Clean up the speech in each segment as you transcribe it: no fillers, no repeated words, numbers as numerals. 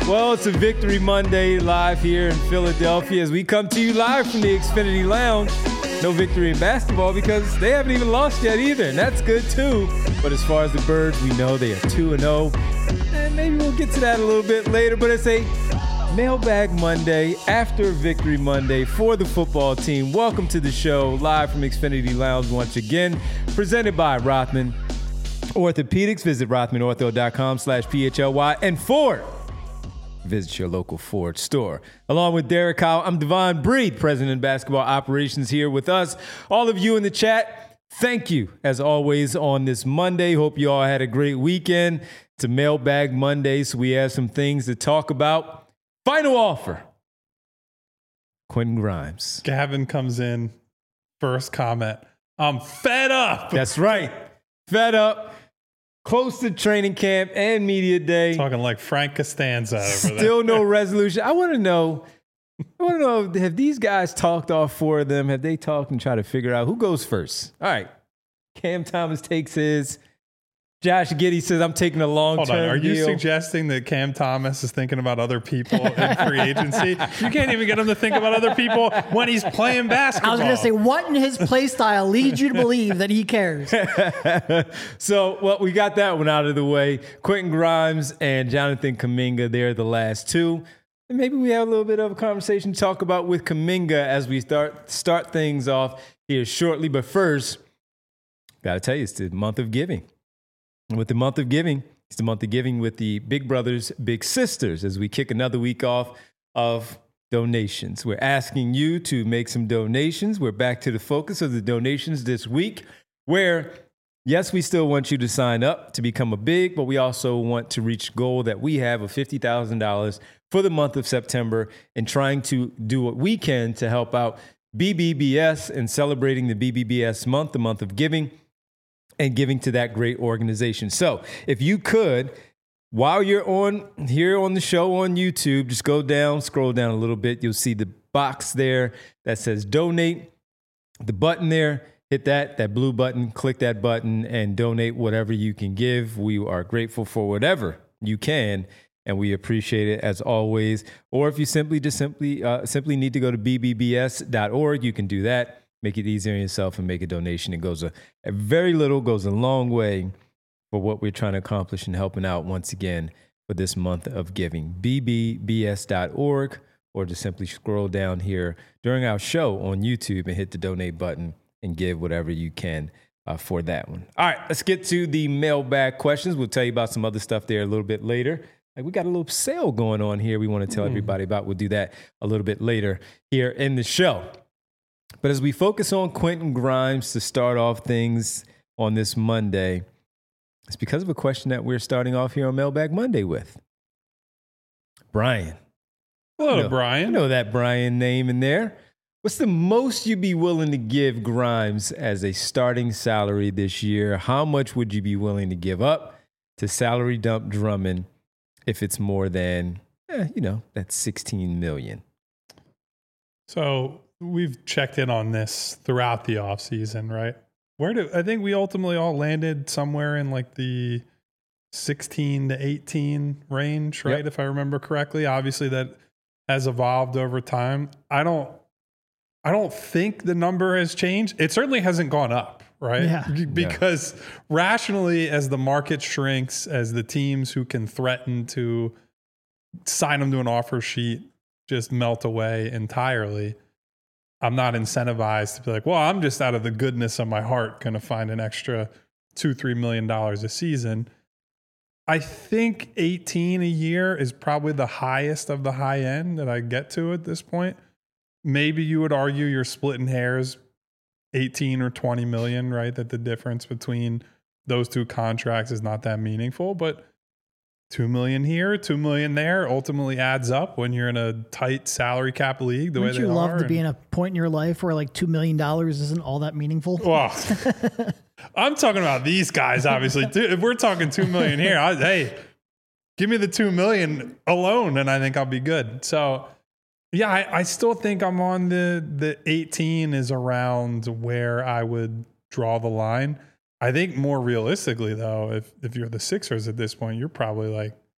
Well, it's a Victory Monday live here in Philadelphia as we come to you live from the Xfinity Lounge. No victory in basketball because they haven't even lost yet either, and that's good too. But as far as the Birds, we know they are 2-0, and maybe we'll get to that a little bit later. But it's a Mailbag Monday after Victory Monday for the football team. Welcome to the show live from Xfinity Lounge once again, presented by Rothman Orthopedics. Visit rothmanortho.com/PHLY and Ford. Visit your local Ford store. Along with Derek Howell, I'm Devon Breed, President of Basketball Operations, here with us. All of you in the chat, thank you, as always, on this Monday. Hope you all had a great weekend. It's a Mailbag Monday, so we have some things to talk about. Final offer. Quentin Grimes. Gavin comes in, first comment. I'm fed up. That's right. Fed up. Close to training camp and media day. Talking like Frank Costanza over there. Still no resolution. I want to know, have these guys talked, all four of them? Have they talked and tried to figure out who goes first? All right. Cam Thomas takes his. Josh Giddey says, I'm taking a long-term deal. Hold on. Are you suggesting that Cam Thomas is thinking about other people in free agency? You can't even get him to think about other people when he's playing basketball. I was going to say, what in his play style leads you to believe that he cares? So, well, we got that one out of the way. Quentin Grimes and Jonathan Kuminga, they're the last two. And maybe we have a little bit of a conversation to talk about with Kuminga as we start things off here shortly. But first, got to tell you, it's the month of giving. With the month of giving, it's the month of giving with the Big Brothers, Big Sisters, as we kick another week off of donations. We're asking you to make some donations. We're back to the focus of the donations this week, where, yes, we still want you to sign up to become a big, but we also want to reach a goal that we have of $50,000 for the month of September and trying to do what we can to help out BBBS and celebrating the BBBS month, the month of giving, and giving to that great organization. So if you could, while you're on here on the show on YouTube, just go down, scroll down a little bit. You'll see the box there that says donate. The button there, hit that blue button, click that button and donate whatever you can give. We are grateful for whatever you can, and we appreciate it as always. Or if you simply need to go to bbbs.org, you can do that. Make it easier on yourself and make a donation. It goes a very little, goes a long way for what we're trying to accomplish and helping out once again for this month of giving. bbbs.org, or just simply scroll down here during our show on YouTube and hit the donate button and give whatever you can for that one. All right, let's get to the mailbag questions. We'll tell you about some other stuff there a little bit later. We got a little sale going on here we want to tell everybody about. We'll do that a little bit later here in the show. But as we focus on Quentin Grimes to start off things on this Monday, it's because of a question that we're starting off here on Mailbag Monday with. Brian. Hello, Brian. I know that Brian name in there. What's the most you'd be willing to give Grimes as a starting salary this year? How much would you be willing to give up to salary dump Drummond if it's more than, that $16 million? So we've checked in on this throughout the offseason, right? I think we ultimately all landed somewhere in like the 16 to 18 range, right? Yep. If I remember correctly. Obviously that has evolved over time. I don't think the number has changed. It certainly hasn't gone up, right? Yeah. Because rationally, as the market shrinks, as the teams who can threaten to sign them to an offer sheet just melt away entirely, I'm not incentivized to be like, well, I'm just out of the goodness of my heart going to find an extra $2-3 million a season. I think 18 a year is probably the highest of the high end that I get to at this point. Maybe you would argue you're splitting hairs, 18 or 20 million, right? That the difference between those two contracts is not that meaningful, but $2 million here, $2 million there ultimately adds up when you're in a tight salary cap league. Wouldn't you love to be in a point in your life where like $2 million isn't all that meaningful? Well, I'm talking about these guys, obviously. If we're talking $2 million here, hey, give me the $2 million alone, and I think I'll be good. So, yeah, I still think I'm on the 18 is around where I would draw the line. I think more realistically, though, if you're the Sixers at this point, you're probably like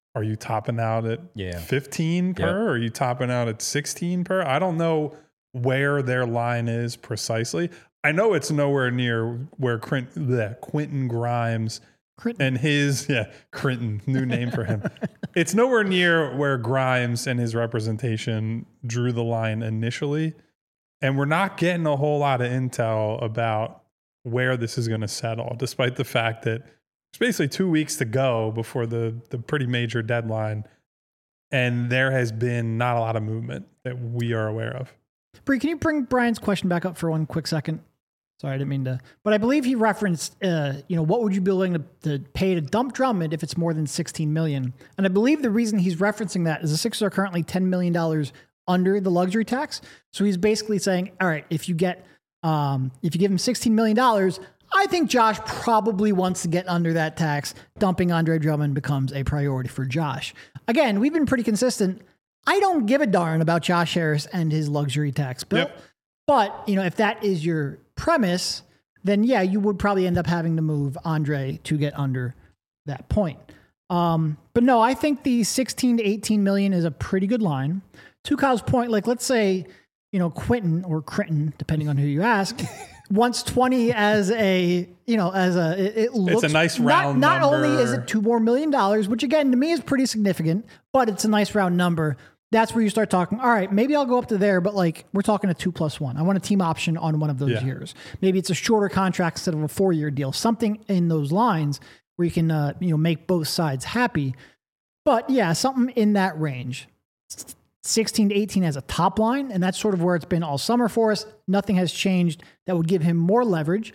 Are you topping out at Yeah. 15 per? Yep. Or are you topping out at 16 per? I don't know where their line is precisely. I know it's nowhere near where Quentin Grimes and his, Crinton, new name for him. It's nowhere near where Grimes and his representation drew the line initially. And we're not getting a whole lot of intel about where this is going to settle, despite the fact that there's basically 2 weeks to go before the pretty major deadline. And there has been not a lot of movement that we are aware of. Bree, can you bring Brian's question back up for one quick second? Sorry, I didn't mean to. But I believe he referenced, what would you be willing to pay to dump Drummond if it's more than $16 million? And I believe the reason he's referencing that is the Sixers are currently $10 million under the luxury tax. So he's basically saying, all right, if you give him $16 million, I think Josh probably wants to get under that tax. Dumping Andre Drummond becomes a priority for Josh. Again, we've been pretty consistent. I don't give a darn about Josh Harris and his luxury tax bill. Yep. But, if that is your premise, then yeah, you would probably end up having to move Andre to get under that point. But no, I think the 16 to 18 million is a pretty good line. To Kyle's point, like let's say, Quentin or Crinton, depending on who you ask, wants 20 as it looks, it's a nice round not number. only is it $2 more million, which again, to me is pretty significant, but it's a nice round number. That's where you start talking, all right, maybe I'll go up to there, but like we're talking a 2+1. I want a team option on one of those years. Maybe it's a shorter contract instead of a 4-year deal, something in those lines where you can, make both sides happy. But yeah, something in that range. 16 to 18 as a top line, and that's sort of where it's been all summer for us. Nothing has changed that would give him more leverage.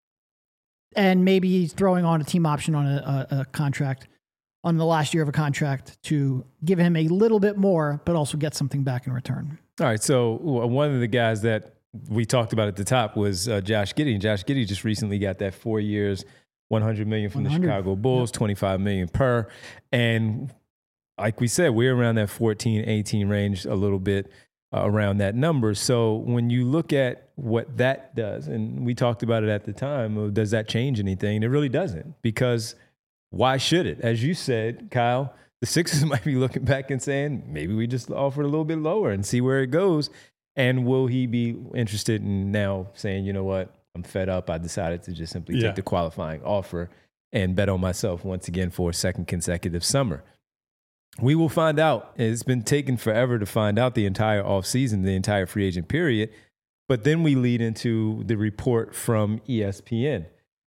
And maybe he's throwing on a team option on a contract on the last year of a contract to give him a little bit more, but also get something back in return. All right. So one of the guys that we talked about at the top was Josh Giddey. And Josh Giddey just recently got that 4 years, $100 million from the Chicago Bulls, $25 million per. And like we said, we're around that 14, 18 range, a little bit around that number. So when you look at what that does, and we talked about it at the time, does that change anything? It really doesn't, because why should it? As you said, Kyle, the Sixers might be looking back and saying, maybe we just offer a little bit lower and see where it goes. And will he be interested in now saying, you know what, I'm fed up. I decided to just simply take the qualifying offer and bet on myself once again for a second consecutive summer. We will find out. It's been taking forever to find out the entire offseason, the entire free agent period. But then we lead into the report from ESPN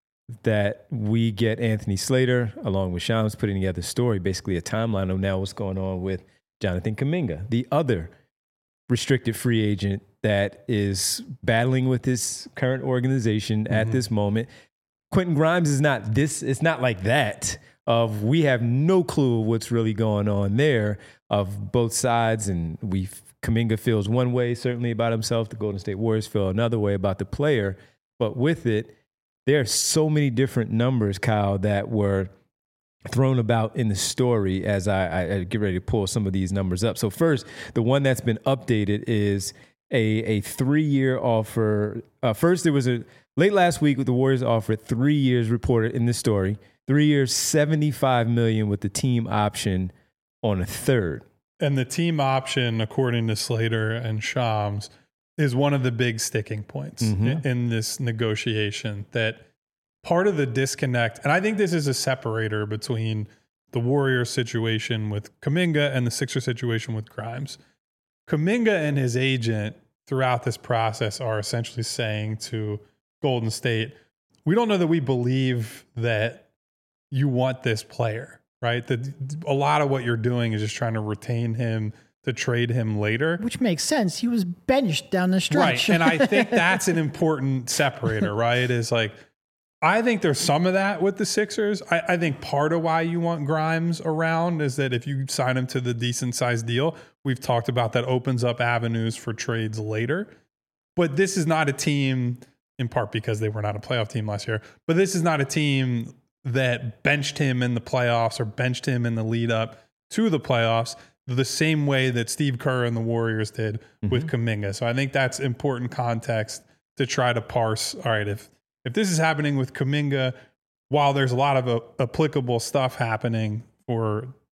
that we get Anthony Slater, along with Shams, putting together a story, basically a timeline of now what's going on with Jonathan Kuminga, the other restricted free agent that is battling with his current organization at this moment. Quentin Grimes is not this. It's not like that. We have no clue what's really going on there of both sides. And Kuminga feels one way, certainly about himself. The Golden State Warriors feel another way about the player. But with it, there are so many different numbers, Kyle, that were thrown about in the story as I get ready to pull some of these numbers up. So first, the one that's been updated is a 3-year offer. First, there was late last week, the Warriors offered 3 years, reported in the story. 3 years, $75 million with the team option on a third. And the team option, according to Slater and Shams, is one of the big sticking points in this negotiation. That part of the disconnect, and I think this is a separator between the Warriors situation with Kuminga and the Sixers situation with Grimes. Kuminga and his agent throughout this process are essentially saying to Golden State, we don't know that we believe that you want this player, right? That a lot of what you're doing is just trying to retain him to trade him later. Which makes sense. He was benched down the stretch. Right. And I think that's an important separator, right? Is like, I think there's some of that with the Sixers. I think part of why you want Grimes around is that if you sign him to the decent sized deal, we've talked about that opens up avenues for trades later. But this is not a team, in part because they were not a playoff team last year, but this is not a team that benched him in the playoffs or benched him in the lead up to the playoffs the same way that Steve Kerr and the Warriors did with Kuminga. So I think that's important context to try to parse. All right, if this is happening with Kuminga, while there's a lot of applicable stuff happening for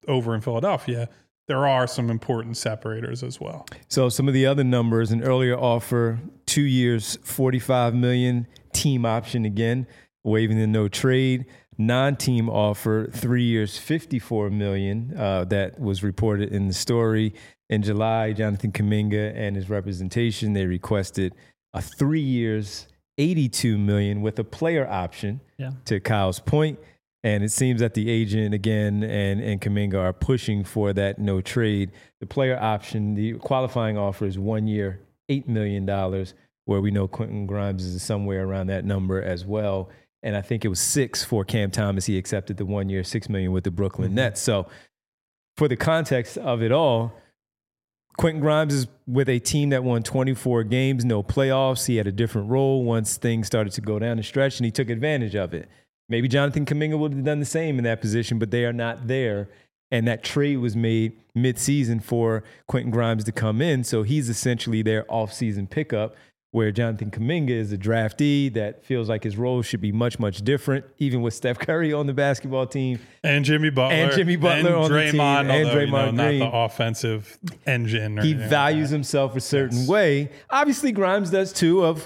over in Philadelphia, there are some important separators as well. So some of the other numbers, an earlier offer, 2 years, $45 million, team option again, waiving the no trade. Non-team offer, 3 years, $54 million. That was reported in the story. In July, Jonathan Kuminga and his representation, they requested a 3 years, $82 million with a player option, to Kyle's point. And it seems that the agent, again, and Kuminga are pushing for that no trade. The player option, the qualifying offer is 1 year, $8 million, where we know Quentin Grimes is somewhere around that number as well. And I think it was 6 for Cam Thomas. He accepted the 1 year, $6 million with the Brooklyn Nets. So for the context of it all, Quentin Grimes is with a team that won 24 games, no playoffs. He had a different role once things started to go down the stretch, and he took advantage of it. Maybe Jonathan Kuminga would have done the same in that position, but they are not there. And that trade was made mid-season for Quentin Grimes to come in. So he's essentially their off-season pickup, where Jonathan Kuminga is a draftee that feels like his role should be much, much different, even with Steph Curry on the basketball team. And Jimmy Butler. And Jimmy Butler on the team. And Draymond Green. Not the offensive engine. He values himself a certain way. Obviously, Grimes does too, of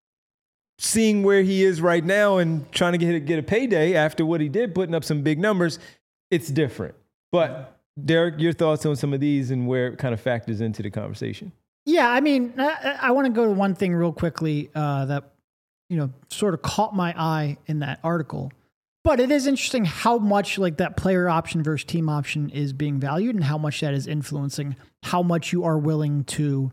seeing where he is right now and trying to get a payday after what he did, putting up some big numbers. It's different. But Derek, your thoughts on some of these and where it kind of factors into the conversation? Yeah, I mean, I want to go to one thing real quickly that, sort of caught my eye in that article. But it is interesting how much like that player option versus team option is being valued and how much that is influencing how much you are willing to,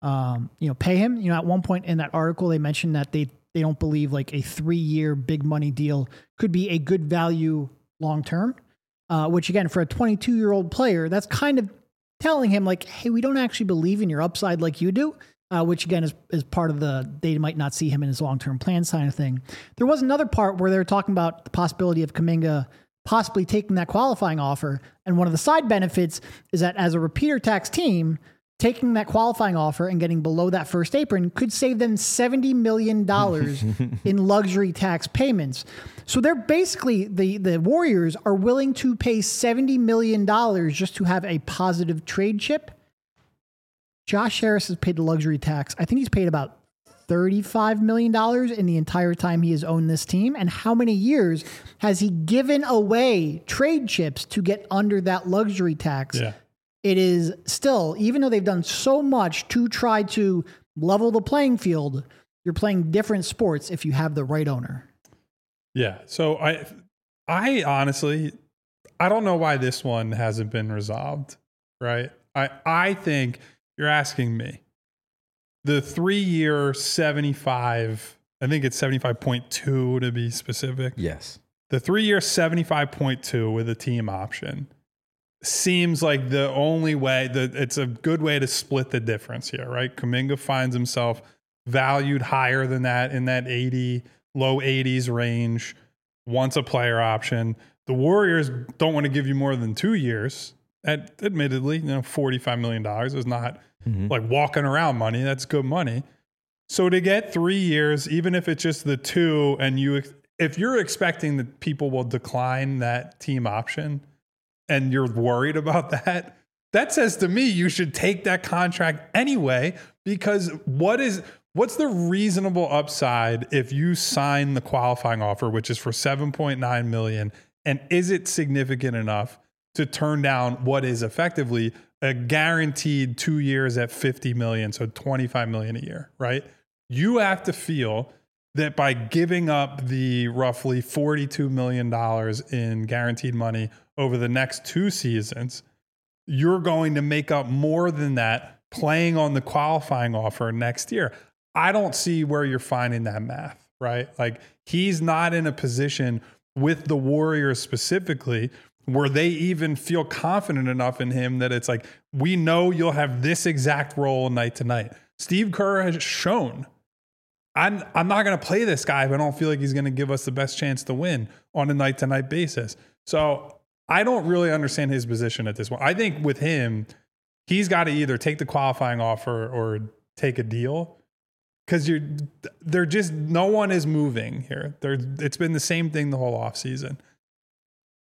pay him. At one point in that article, they mentioned that they don't believe like a 3-year big money deal could be a good value long term, which again, for a 22-year-old player, that's kind of telling him like, hey, we don't actually believe in your upside like you do, which again is part of they might not see him in his long-term plan kind of thing. There was another part where they were talking about the possibility of Kuminga possibly taking that qualifying offer. And one of the side benefits is that as a repeater tax team, taking that qualifying offer and getting below that first apron could save them $70 million in luxury tax payments. So they're basically, the Warriors are willing to pay $70 million just to have a positive trade chip. Josh Harris has paid the luxury tax. I think he's paid about $35 million in the entire time he has owned this team. And how many years has he given away trade chips to get under that luxury tax? Yeah. It is still, even though they've done so much to try to level the playing field, you're playing different sports if you have the right owner. Yeah. So I honestly, I don't know why this one hasn't been resolved, right? I think you're asking me. The 3-year 75, I think it's 75.2 to be specific. Yes. The 3-year 75.2 with a team option seems like the only way that it's a good way to split the difference here, right? Kuminga finds himself valued higher than that in that low 80s range, wants a player option. The Warriors don't want to give you more than 2 years. Admittedly, $45 million is not like walking around money. That's good money. So to get 3 years, even if it's just the 2, and if you're expecting that people will decline that team option, and you're worried about that, that says to me you should take that contract anyway, because what's the reasonable upside if you sign the qualifying offer, which is for $7.9 million, and is it significant enough to turn down what is effectively a guaranteed 2 years at $50 million, so $25 million a year, right? You have to feel that by giving up the roughly $42 million in guaranteed money over the next 2 seasons, you're going to make up more than that playing on the qualifying offer next year. I don't see where you're finding that math, right? Like, he's not in a position with the Warriors specifically where they even feel confident enough in him that it's like, we know you'll have this exact role night to night. Steve Kerr has shown, I'm not going to play this guy if I don't feel like he's going to give us the best chance to win on a night-to-night basis. So I don't really understand his position at this point. I think with him, he's got to either take the qualifying offer or take a deal, because they're just, no one is moving here. It's been the same thing the whole offseason.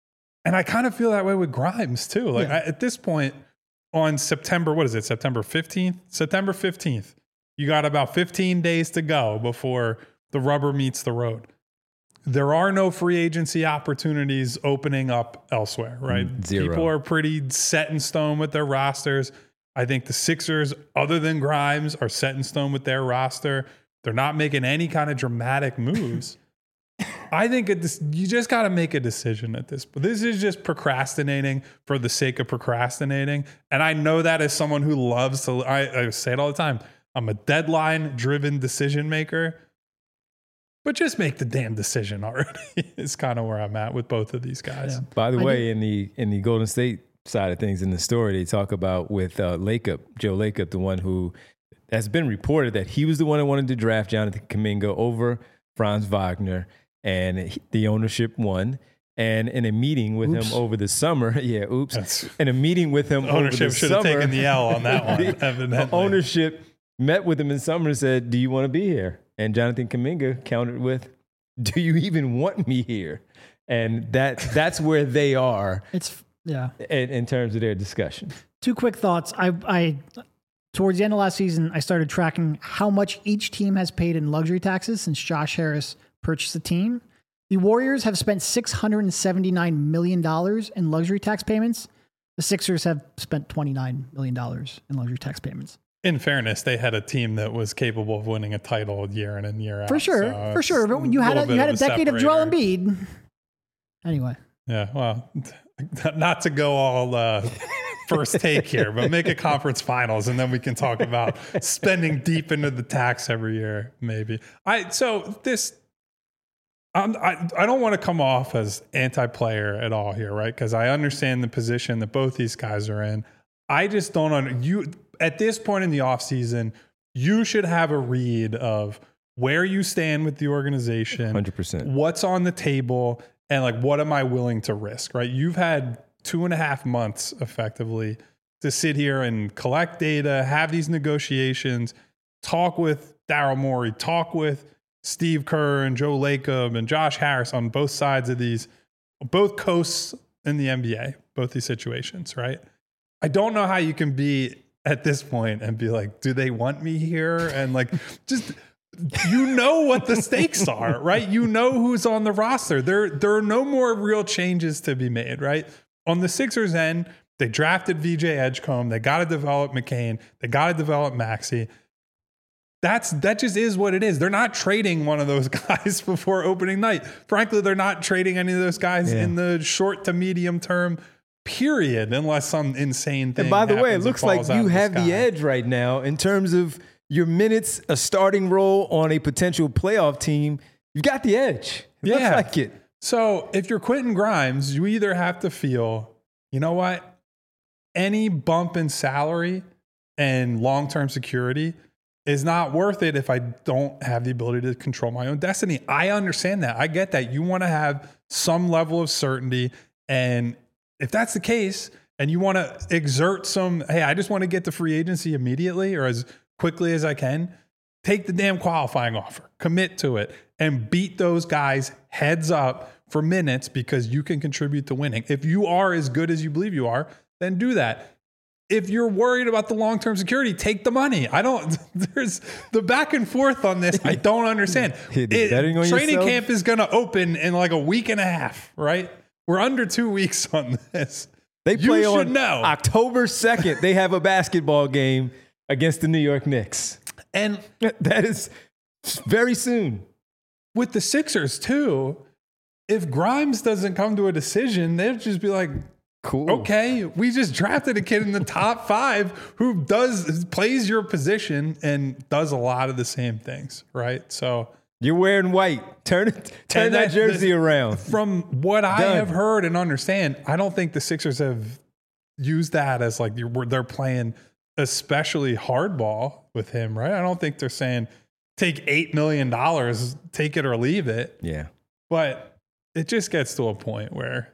And I kind of feel that way with Grimes too. Like at this point on September 15th? September 15th. You got about 15 days to go before the rubber meets the road. There are no free agency opportunities opening up elsewhere, right? Zero. People are pretty set in stone with their rosters. I think the Sixers, other than Grimes, are set in stone with their roster. They're not making any kind of dramatic moves. I think you just got to make a decision at this point. This is just procrastinating for the sake of procrastinating. And I know that as someone who loves to, I say it all the time, I'm a deadline-driven decision maker. But just make the damn decision already is kind of where I'm at with both of these guys. Yeah. By the way, in the Golden State side of things in the story, they talk about with Joe Lacob, the one who has been reported that he was the one that wanted to draft Jonathan Kuminga over Franz Wagner, and the ownership won. And in a meeting with him over the summer, in a meeting with him over the summer, ownership should have taken the L on that one. Evidently, ownership met with him in summer and said, "Do you want to be here?" And Jonathan Kuminga countered with, "Do you even want me here?" And that's where they are. In terms of their discussion. 2 quick thoughts. I towards the end of last season, I started tracking how much each team has paid in luxury taxes since Josh Harris purchased the team. The Warriors have spent $679 million in luxury tax payments. The Sixers have spent $29 million in luxury tax payments. In fairness, they had a team that was capable of winning a title year in and year out. For sure. But you had a decade of Joel Embiid. Anyway. Yeah, well, not to go all first take here, but make a conference finals, and then we can talk about spending deep into the tax every year, maybe. I don't want to come off as anti-player at all here, right? Because I understand the position that both these guys are in. I just don't at this point in the offseason, you should have a read of where you stand with the organization, 100%. What's on the table, and like what am I willing to risk, right? You've had 2.5 months effectively to sit here and collect data, have these negotiations, talk with Daryl Morey, talk with Steve Kerr and Joe Lacob and Josh Harris on both sides of these, both coasts in the NBA, both these situations, right? I don't know how you can be at this point and be like, do they want me here? And like, just, what the stakes are, right? You know who's on the roster. There are no more real changes to be made, right? On the Sixers end, they drafted VJ Edgecombe. They got to develop McCain. They got to develop Maxey. That just is what it is. They're not trading one of those guys before opening night. Frankly, they're not trading any of those guys in the short to medium term period, unless some insane thing. And by the way, it looks like you have the edge right now in terms of your minutes, a starting role on a potential playoff team. You've got the edge. It looks like it. So if you're Quentin Grimes, you either have to feel, you know what, any bump in salary and long-term security is not worth it if I don't have the ability to control my own destiny. I understand that. I get that. You want to have some level of certainty. And if that's the case, and you want to exert some, hey, I just want to get to free agency immediately or as quickly as I can, take the damn qualifying offer, commit to it, and beat those guys heads up for minutes because you can contribute to winning. If you are as good as you believe you are, then do that. If you're worried about the long-term security, take the money. There's the back and forth on this. I don't understand. Training camp is going to open in like a week and a half, right? We're under 2 weeks on this. They play on October 2nd. They have a basketball game against the New York Knicks. And that is very soon. With the Sixers, too, if Grimes doesn't come to a decision, they'll just be like, cool. Okay, we just drafted a kid in the top 5 who plays your position and does a lot of the same things, right? So you're wearing white. Turn that jersey around. From what I have heard and understand, I don't think the Sixers have used that as like they're playing especially hardball with him, right? I don't think they're saying take $8 million, take it or leave it. Yeah, but it just gets to a point where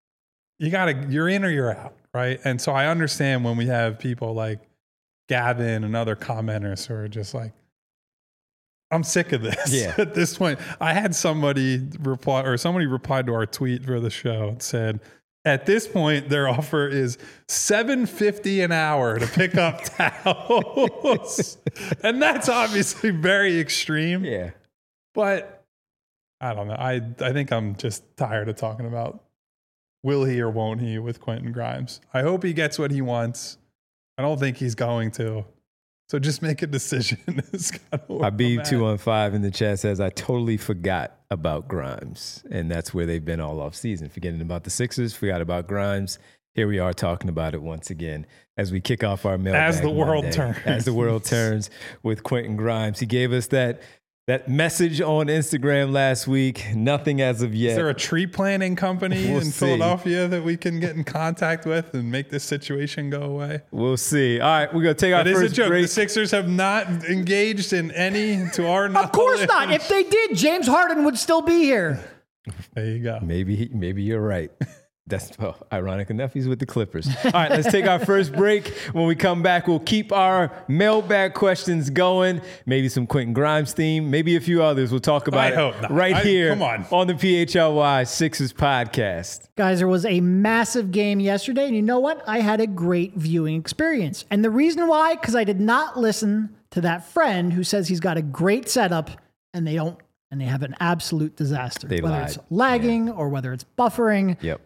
you're in or you're out, right? And so I understand when we have people like Gavin and other commenters who are just like, I'm sick of this. Yeah. At this point, I had somebody replied to our tweet for the show and said, At this point, their offer is $7.50 an hour to pick up towels. And that's obviously very extreme. Yeah. But I don't know. I think I'm just tired of talking about will he or won't he with Quentin Grimes. I hope he gets what he wants. I don't think he's going to. So just make a decision. Habib215 in the chat says, I totally forgot about Grimes. And that's where they've been all off season. Forgetting about the Sixers, forgot about Grimes. Here we are talking about it once again as we kick off our mailbag As the world Monday. turns. As the world turns with Quentin Grimes. He gave us that message on Instagram last week. Nothing as of yet. Is there a tree planting company We'll in see. Philadelphia that we can get in contact with and make this situation go away? We'll see. All right, we're going to take our That is first a joke. break. The Sixers have not engaged in any, to our knowledge. Of course not. If they did, James Harden would still be here. There you go. Maybe you're right. That's ironic enough. He's with the Clippers. All right, let's take our first break. When we come back, we'll keep our mailbag questions going. Maybe some Quentin Grimes theme. Maybe a few others. We'll talk about I hope not. right here come on the PHLY Sixers podcast. Guys, there was a massive game yesterday, and you know what? I had a great viewing experience. And the reason why, because I did not listen to that friend who says he's got a great setup, and they don't, and they have an absolute disaster. They whether lied. it's lagging or whether it's buffering. Yep.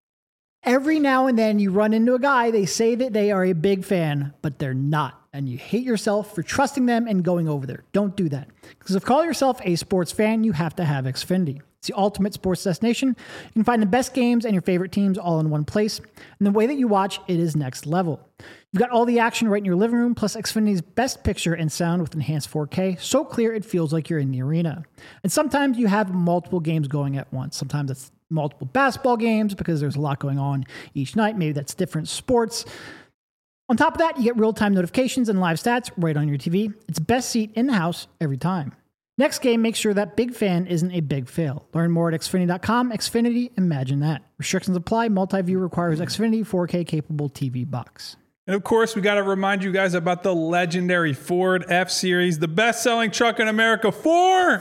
Every now and then you run into a guy, they say that they are a big fan, but they're not. And you hate yourself for trusting them and going over there. Don't do that. Because if you call yourself a sports fan, you have to have Xfinity. It's the ultimate sports destination. You can find the best games and your favorite teams all in one place. And the way that you watch, it is next level. You've got all the action right in your living room, plus Xfinity's best picture and sound with enhanced 4K, so clear it feels like you're in the arena. And sometimes you have multiple games going at once. Sometimes it's multiple basketball games because there's a lot going on each night. Maybe that's different sports. On top of that, you get real-time notifications and live stats right on your TV. It's best seat in the house every time. Next game, make sure that big fan isn't a big fail. Learn more at Xfinity.com. Xfinity, imagine that. Restrictions apply. Multi-view requires Xfinity 4K capable TV box. And of course, we got to remind you guys about the legendary Ford F-Series, the best-selling truck in America for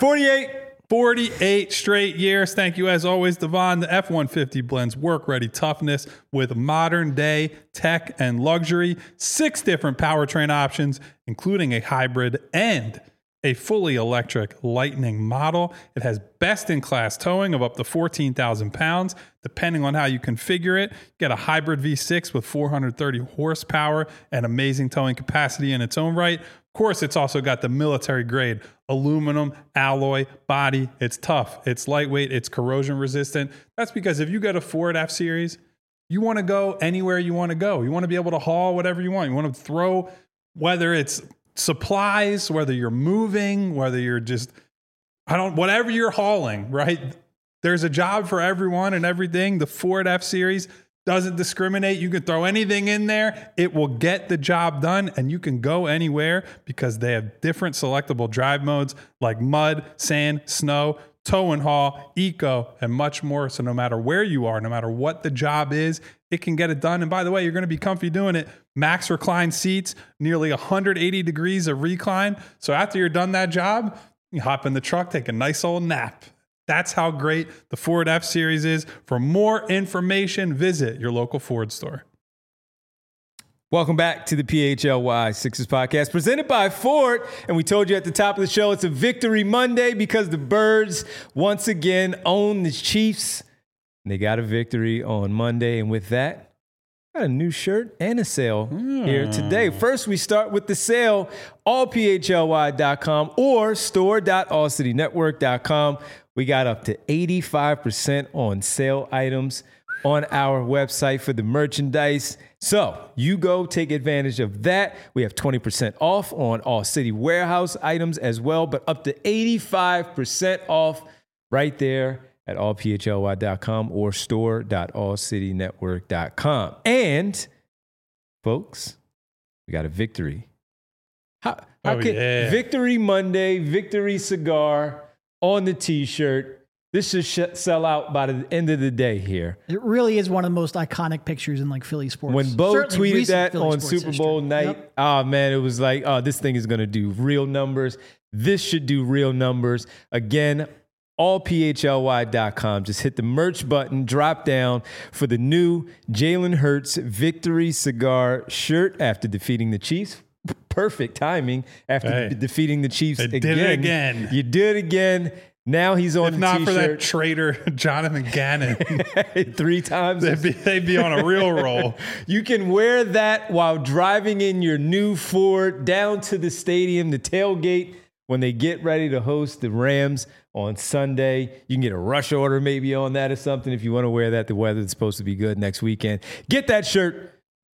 48 straight years. Thank you, as always, Devon. The F-150 blends work-ready toughness with modern-day tech and luxury. 6 different powertrain options, including a hybrid and a fully electric Lightning model. It has best-in-class towing of up to 14,000 pounds. Depending on how you configure it, get a hybrid V6 with 430 horsepower and amazing towing capacity in its own right. Of course, it's also got the military-grade aluminum alloy body. It's tough. It's lightweight. It's corrosion resistant. That's because if you get a Ford F-Series, you want to go anywhere you want to go. You want to be able to haul whatever you want. You want to throw, whether it's supplies, whether you're moving, whether you're just, whatever you're hauling, right? There's a job for everyone and everything. The Ford F-Series doesn't discriminate. You can throw anything in there. It will get the job done, and you can go anywhere because they have different selectable drive modes like mud, sand, snow, tow and haul, eco, and much more. So no matter where you are, no matter what the job is, it can get it done. And by the way, you're going to be comfy doing it. Max recline seats, nearly 180 degrees of recline. So after you're done that job, you hop in the truck, take a nice old nap. That's how great the Ford F-Series is. For more information, visit your local Ford store. Welcome back to the PHLY Sixers podcast presented by Ford. And we told you at the top of the show, it's a victory Monday because the Birds once again own the Chiefs. They got a victory on Monday. And with that, got a new shirt and a sale here today. First, we start with the sale, allphly.com or store.allcitynetwork.com. We got up to 85% on sale items on our website for the merchandise. So you go take advantage of that. We have 20% off on All City Warehouse items as well, but up to 85% off right there at allphly.com or store.allcitynetwork.com. And folks, we got a victory. Victory Monday, victory cigar on the t-shirt. This should sell out by the end of the day here. It really is one of the most iconic pictures in like Philly sports. When Bo Certainly tweeted that Philly on sports Super Bowl history. night, Yep. oh man, it was like, oh, this thing is going to do real numbers. This should do real numbers. Again, allphly.com. Just hit the merch button, drop down for the new Jalen Hurts Victory Cigar shirt after defeating the Chiefs. Perfect timing after defeating the Chiefs They did it again. You did it again. Now he's on If the not t-shirt. for that traitor, Jonathan Gannon, 3 times. they'd be on a real roll. You can wear that while driving in your new Ford down to the stadium, the tailgate, when they get ready to host the Rams on Sunday. You can get a rush order maybe on that or something if you want to wear that. The weather's supposed to be good next weekend. Get that shirt.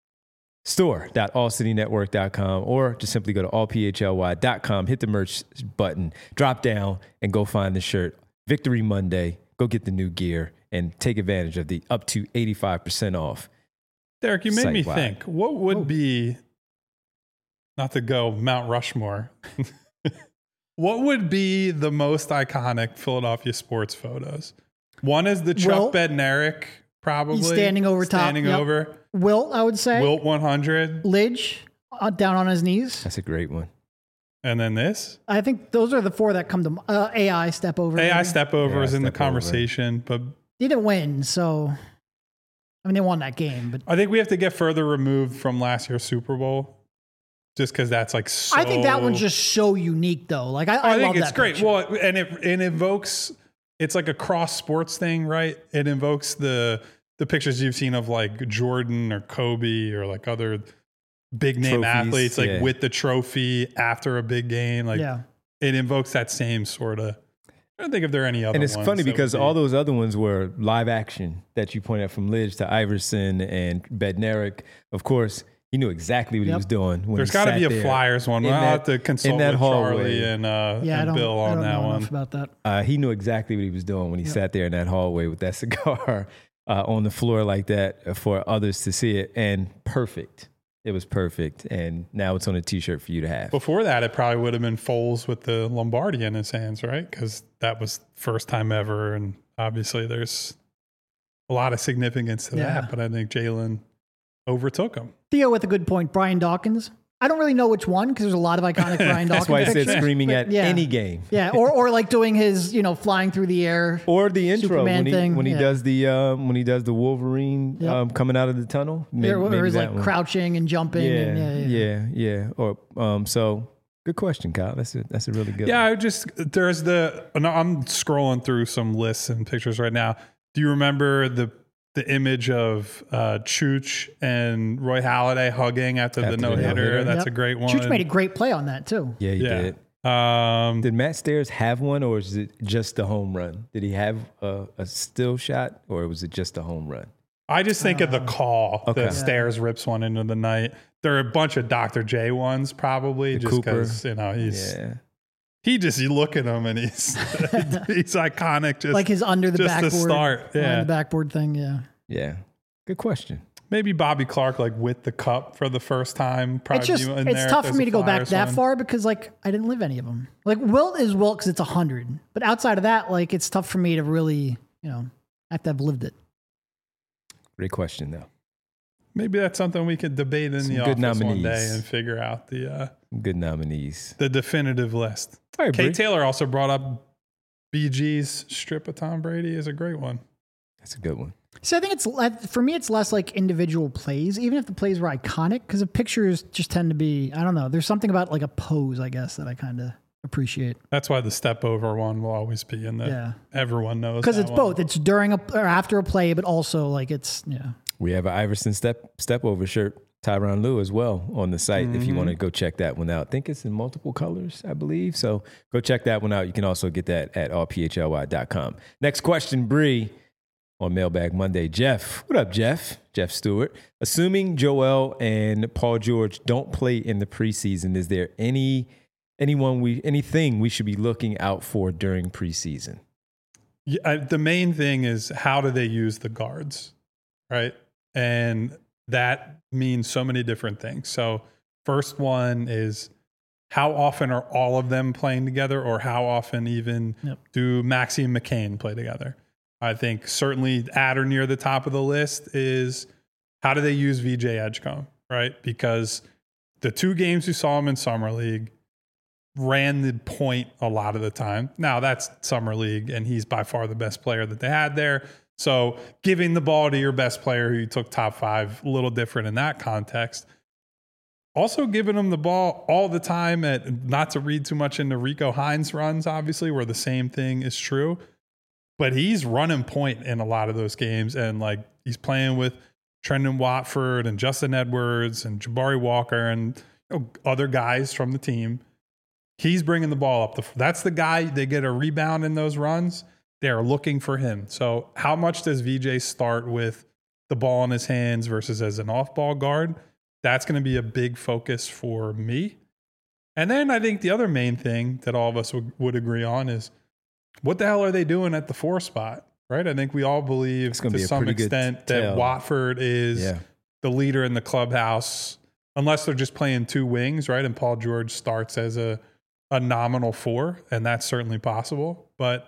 Store.allcitynetwork.com or just simply go to allphly.com, hit the merch button, drop down, and go find the shirt. Victory Monday. Go get the new gear and take advantage of the up to 85% off. Derek, you made me Site-wide. think, what would be, not to go Mount Rushmore, what would be the most iconic Philadelphia sports photos? One is the Chuck Bednarik, probably. He's standing over top. Standing over. Wilt, I would say. Wilt 100. Lidge, down on his knees. That's a great one. And then this. I think those are the 4 that come to AI step over. AI maybe. step over is in the step over. conversation, but He didn't win, so I mean they won that game, but I think we have to get further removed from last year's Super Bowl, just because that's like so. I think that one's just so unique though. Like I I think love it's that great. picture. Well, and it evokes. It's like a cross sports thing, right? It invokes the pictures you've seen of like Jordan or Kobe or like other big name Trophies, athletes, like yeah. with the trophy after a big game. Like it invokes that same sort of. I don't think if there are any other. And it's ones funny that because would be- all those other ones were live action that you pointed out, from Lidge to Iverson and Bednarik. Of course, he knew exactly what he was doing. When There's got to be a Flyers one. I'll have to consult with Charlie and I don't, Bill I on don't that know one. enough about that. He knew exactly what he was doing when he sat there in that hallway with that cigar on the floor like that for others to see it. And perfect. It was perfect. And now it's on a T-shirt for you to have. Before that, it probably would have been Foles with the Lombardi in his hands, right? Because that was first time ever. And obviously there's a lot of significance to that. But I think Jalen overtook him. Theo with a good point. Brian Dawkins. I don't really know which one because there's a lot of iconic Brian Dawkins. That's why I said pictures. screaming But at yeah. any game. Yeah, or like doing his, flying through the air. Or the intro Superman thing, when he yeah. does the Wolverine coming out of the tunnel. Or he's that like one. crouching and jumping. Yeah. Or so good question, Kyle. That's a really good. Yeah, one. I'm scrolling through some lists and pictures right now. Do you remember the image of Chooch and Roy Halladay hugging after the no-hitter? no-hitter. That's a great one. Chooch made a great play on that too. Yeah, he did. Did Matt Stairs have one, or is it just a home run? Did he have a still shot, or was it just a home run? I just think of the call. Okay. The Stairs rips one into the night. There are a bunch of Dr. J ones probably, just because you look at him and he's he's iconic. Just Like his under the just backboard. to start. Behind the backboard thing. Yeah. Yeah, good question. Maybe Bobby Clark like with the cup for the first time. It's just it's tough for me to go back that far because like I didn't live any of them. Like Wilt is Wilt because it's 100, but outside of that, like it's tough for me to really have to have lived it. Great question, though. Maybe that's something we could debate in the good office one nominees. day and figure out Good nominees. the definitive list. All right, Kate Bree. Taylor also brought up BG's strip of Tom Brady is a great one. That's a good one. So I think for me, it's less like individual plays, even if the plays were iconic, because the pictures just tend to be, I don't know. There's something about like a pose, I guess, that I kind of appreciate. That's why the step over one will always be in the everyone knows. Because that it's one. both. It's during or after a play, but also like it's, We have an Iverson step over shirt, Tyronn Lue as well on the site. If you want to go check that one out. I think it's in multiple colors, I believe. So go check that one out. You can also get that at allphly.com. Next question, Bree, on Mailbag Monday. Jeff, what up, Jeff? Jeff Stewart. Assuming Joel and Paul George don't play in the preseason, is there anything we should be looking out for during preseason? Yeah, the main thing is how do they use the guards, right? And that means so many different things. So first one is how often are all of them playing together, or how often even do Maxey and McCain play together? I think certainly at or near the top of the list is how do they use VJ Edgecombe, right? Because the 2 games we saw him in Summer League, ran the point a lot of the time. Now that's summer league, and he's by far the best player that they had there. So giving the ball to your best player who you took top 5, a little different in that context. Also giving him the ball all the time, not to read too much into Rico Hines runs, obviously, where the same thing is true. But he's running point in a lot of those games, and like he's playing with Trendon Watford and Justin Edwards and Jabari Walker and other guys from the team. He's bringing the ball up. That's the guy. They get a rebound in those runs. They're looking for him. So how much does VJ start with the ball in his hands versus as an off-ball guard? That's going to be a big focus for me. And then I think the other main thing that all of us would agree on is what the hell are they doing at the 4 spot, right? I think we all believe to some extent that Watford is the leader in the clubhouse, unless they're just playing 2 wings, right? And Paul George starts as a nominal 4, and that's certainly possible. But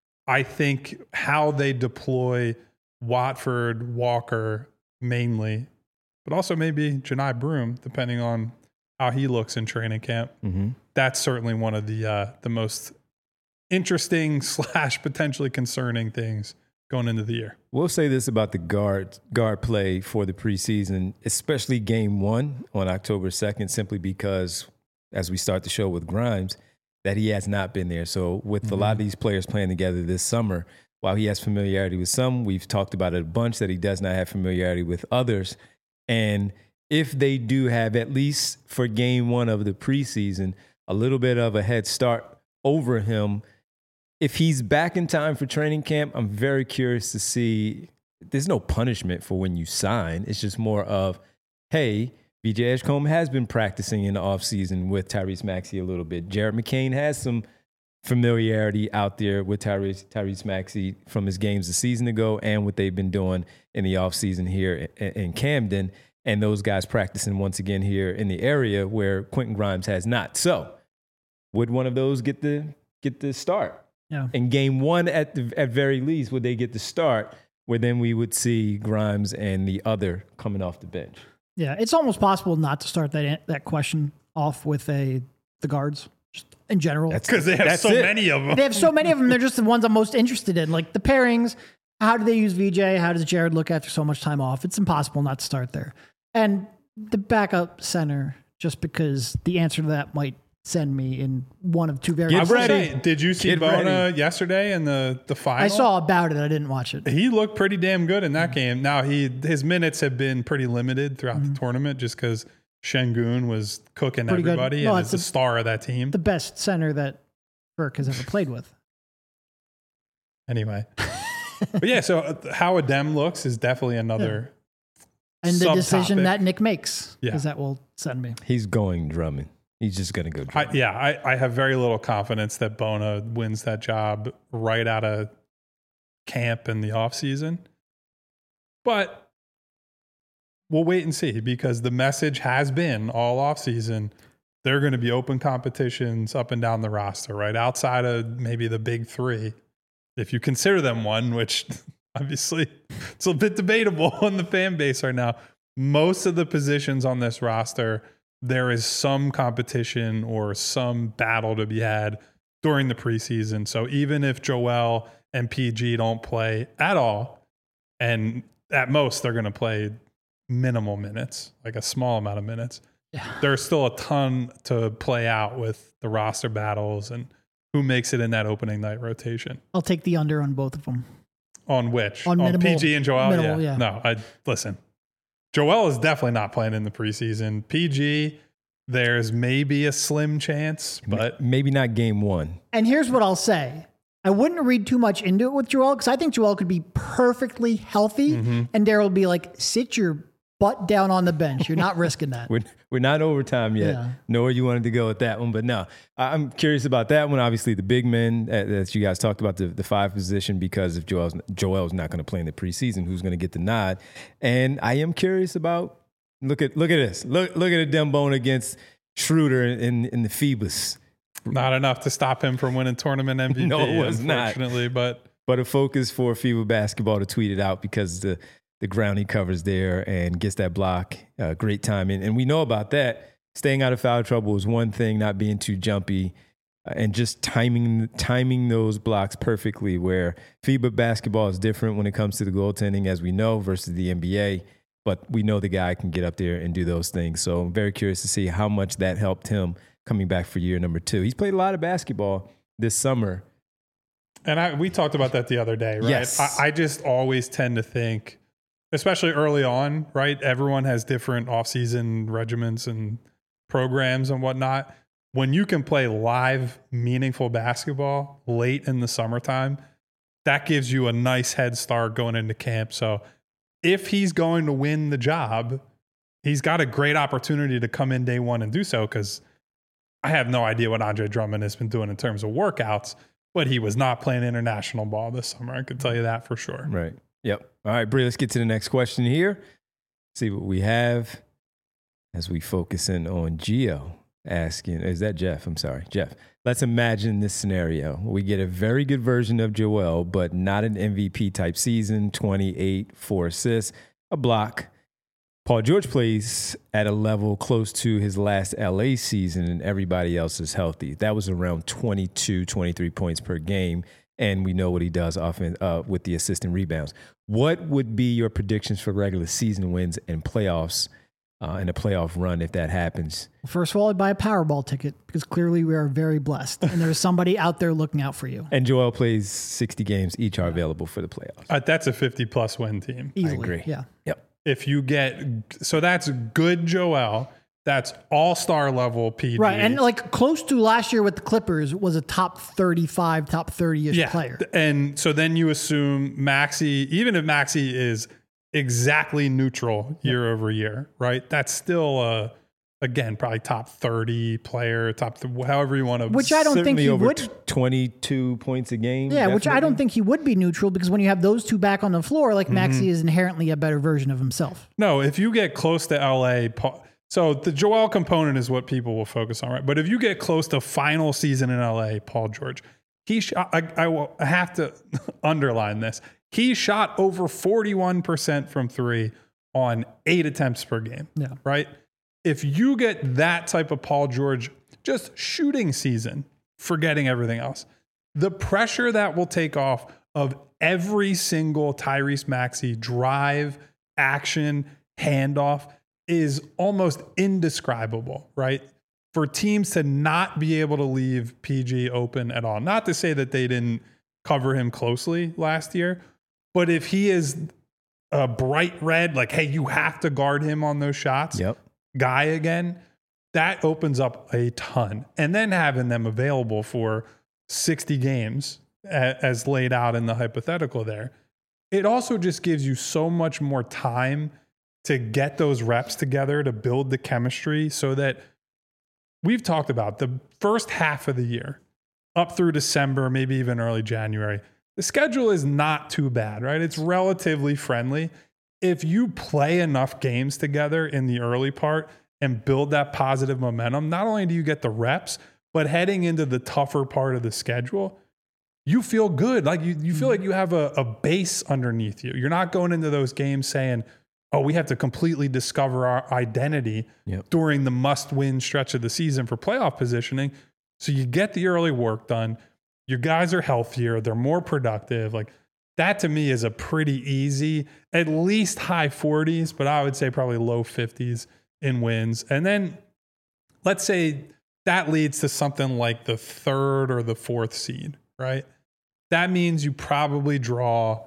I think how they deploy Watford, Walker mainly, but also maybe Janai Broom, depending on how he looks in training camp. Mm-hmm. That's certainly one of the most interesting / potentially concerning things going into the year. We'll say this about the guard play for the preseason, especially game 1 on October 2nd, simply because as we start the show with Grimes, that he has not been there. So with a lot of these players playing together this summer, while he has familiarity with some, we've talked about it a bunch that he does not have familiarity with others. And if they do have, at least for game 1 of the preseason, a little bit of a head start over him, if he's back in time for training camp, I'm very curious to see. There's no punishment for when you sign. It's just more of, hey, VJ Edgecombe has been practicing in the offseason with Tyrese Maxey a little bit. Jared McCain has some familiarity out there with Tyrese Maxey from his games a season ago and what they've been doing in the offseason here in Camden, and those guys practicing once again here in the area where Quentin Grimes has not. So would one of those get the start? Yeah. In game 1, at very least, would they get the start where then we would see Grimes and the other coming off the bench? Yeah, it's almost possible not to start that question off with the guards just in general. That's because they have so many of them. They have so many of them. They're just the ones I'm most interested in. Like the pairings, how do they use VJ? How does Jared look after so much time off? It's impossible not to start there. And the backup center, just because the answer to that might send me in one of 2 very. Get ready. Did you see Bona yesterday in the final? I saw about it. I didn't watch it. He looked pretty damn good in that game. Now his minutes have been pretty limited throughout the tournament just because Şengün was cooking pretty everybody and is the star of that team. The best center that Burke has ever played with. Anyway. But yeah, so how Adem looks is definitely another and the decision that Nick makes, because that will send me. He's going Drummond. He's just going to go Drummond. I have very little confidence that Bona wins that job right out of camp in the offseason. But we'll wait and see, because the message has been all offseason, there are going to be open competitions up and down the roster, right? Outside of maybe the big 3, if you consider them one, which obviously it's a bit debatable in the fan base right now. Most of the positions on this roster, there is some competition or some battle to be had during the preseason. So even if Joel and PG don't play at all, and at most they're going to play minimal minutes, like a small amount of minutes, there's still a ton to play out with the roster battles and who makes it in that opening night rotation. I'll take the under on both of them. On which? On minimal, PG and Joel? Minimal, yeah. No, listen. Joel is definitely not playing in the preseason. PG, there's maybe a slim chance, but maybe not game 1. And here's what I'll say. I wouldn't read too much into it with Joel, because I think Joel could be perfectly healthy, and Daryl would be like, sit your butt down on the bench. You're not risking that. We're not overtime yet. Yeah. Know where you wanted to go with that one, but no. I'm curious about that one. Obviously, the big men that you guys talked about, the 5 position, because if Joel's not going to play in the preseason, who's going to get the nod? And I am curious about, look at this. Look at Adem Bona against Schroeder in the Phoebus. Not enough to stop him from winning tournament MVP. No, it was unfortunately, not. But a focus for FIBA basketball to tweet it out, because the ground he covers there and gets that block, great timing. And we know about that. staying out of foul trouble is one thing, not being too jumpy, and just timing those blocks perfectly, where FIBA basketball is different when it comes to the goaltending, as we know, versus the NBA. But we know the guy can get up there and do those things. So I'm very curious to see how much that helped him coming back for year number 2. He's played a lot of basketball this summer. And we talked about that the other day, right? Yes. I just always tend to think, especially early on, right? Everyone has different off-season regimens and programs and whatnot. When you can play live, meaningful basketball late in the summertime, that gives you a nice head start going into camp. So if he's going to win the job, he's got a great opportunity to come in day one and do so, because I have no idea what Andre Drummond has been doing in terms of workouts, but he was not playing international ball this summer. I could tell you that for sure. Right. Yep. All right, Bree, let's get to the next question here. See what we have as we focus in on Gio asking, is that Jeff? I'm sorry, Jeff. Let's imagine this scenario. We get a very good version of Joel, but not an MVP type season, 28, 4 assists, a block. Paul George plays at a level close to his last LA season, and everybody else is healthy. That was around 22, 23 points per game, and we know what he does often with the assist and rebounds. What would be your predictions for regular season wins and playoffs and a playoff run if that happens? First of all, I'd buy a Powerball ticket, because clearly we are very blessed, and there's somebody out there looking out for you. And Joel plays 60 games. Each are available for the playoffs. That's a 50-plus win team. Easily. I agree. Yeah. Yep. If you get, so that's good Joel. That's all-star level PG. Right. And like close to last year with the Clippers was a top 35, top 30-ish player. And so then you assume Maxey, even if Maxey is exactly neutral year over year, right? That's still again, probably top 30 player, however you want to. Which I don't think he over would. 22 points a game. Yeah, which I don't think he would be neutral, because when you have those two back on the floor, like Maxey is inherently a better version of himself. No, if you get close to LA, so the Joel component is what people will focus on, right? But if you get close to final season in LA, Paul George, I have to underline this. He shot over 41% from 3 on 8 attempts per game. Yeah. Right? If you get that type of Paul George, just shooting season, forgetting everything else, the pressure that will take off of every single Tyrese Maxey drive, action, handoff is almost indescribable, right? For teams to not be able to leave PG open at all. Not to say that they didn't cover him closely last year, but if he is a bright red, like, hey, you have to guard him on those shots, guy again, that opens up a ton. And then having them available for 60 games as laid out in the hypothetical there, it also just gives you so much more time to get those reps together, to build the chemistry, so that we've talked about the first half of the year up through December, maybe even early January. The schedule is not too bad, right? It's relatively friendly. If you play enough games together in the early part and build that positive momentum, not only do you get the reps, but heading into the tougher part of the schedule, you feel good. Like you feel like you have a base underneath you. You're not going into those games saying, oh, we have to completely discover our identity during the must-win stretch of the season for playoff positioning. So you get the early work done. Your guys are healthier. They're more productive. Like, that to me is a pretty easy, at least high 40s, but I would say probably low 50s in wins. And then let's say that leads to something like the 3rd or the 4th seed, right? That means you probably draw,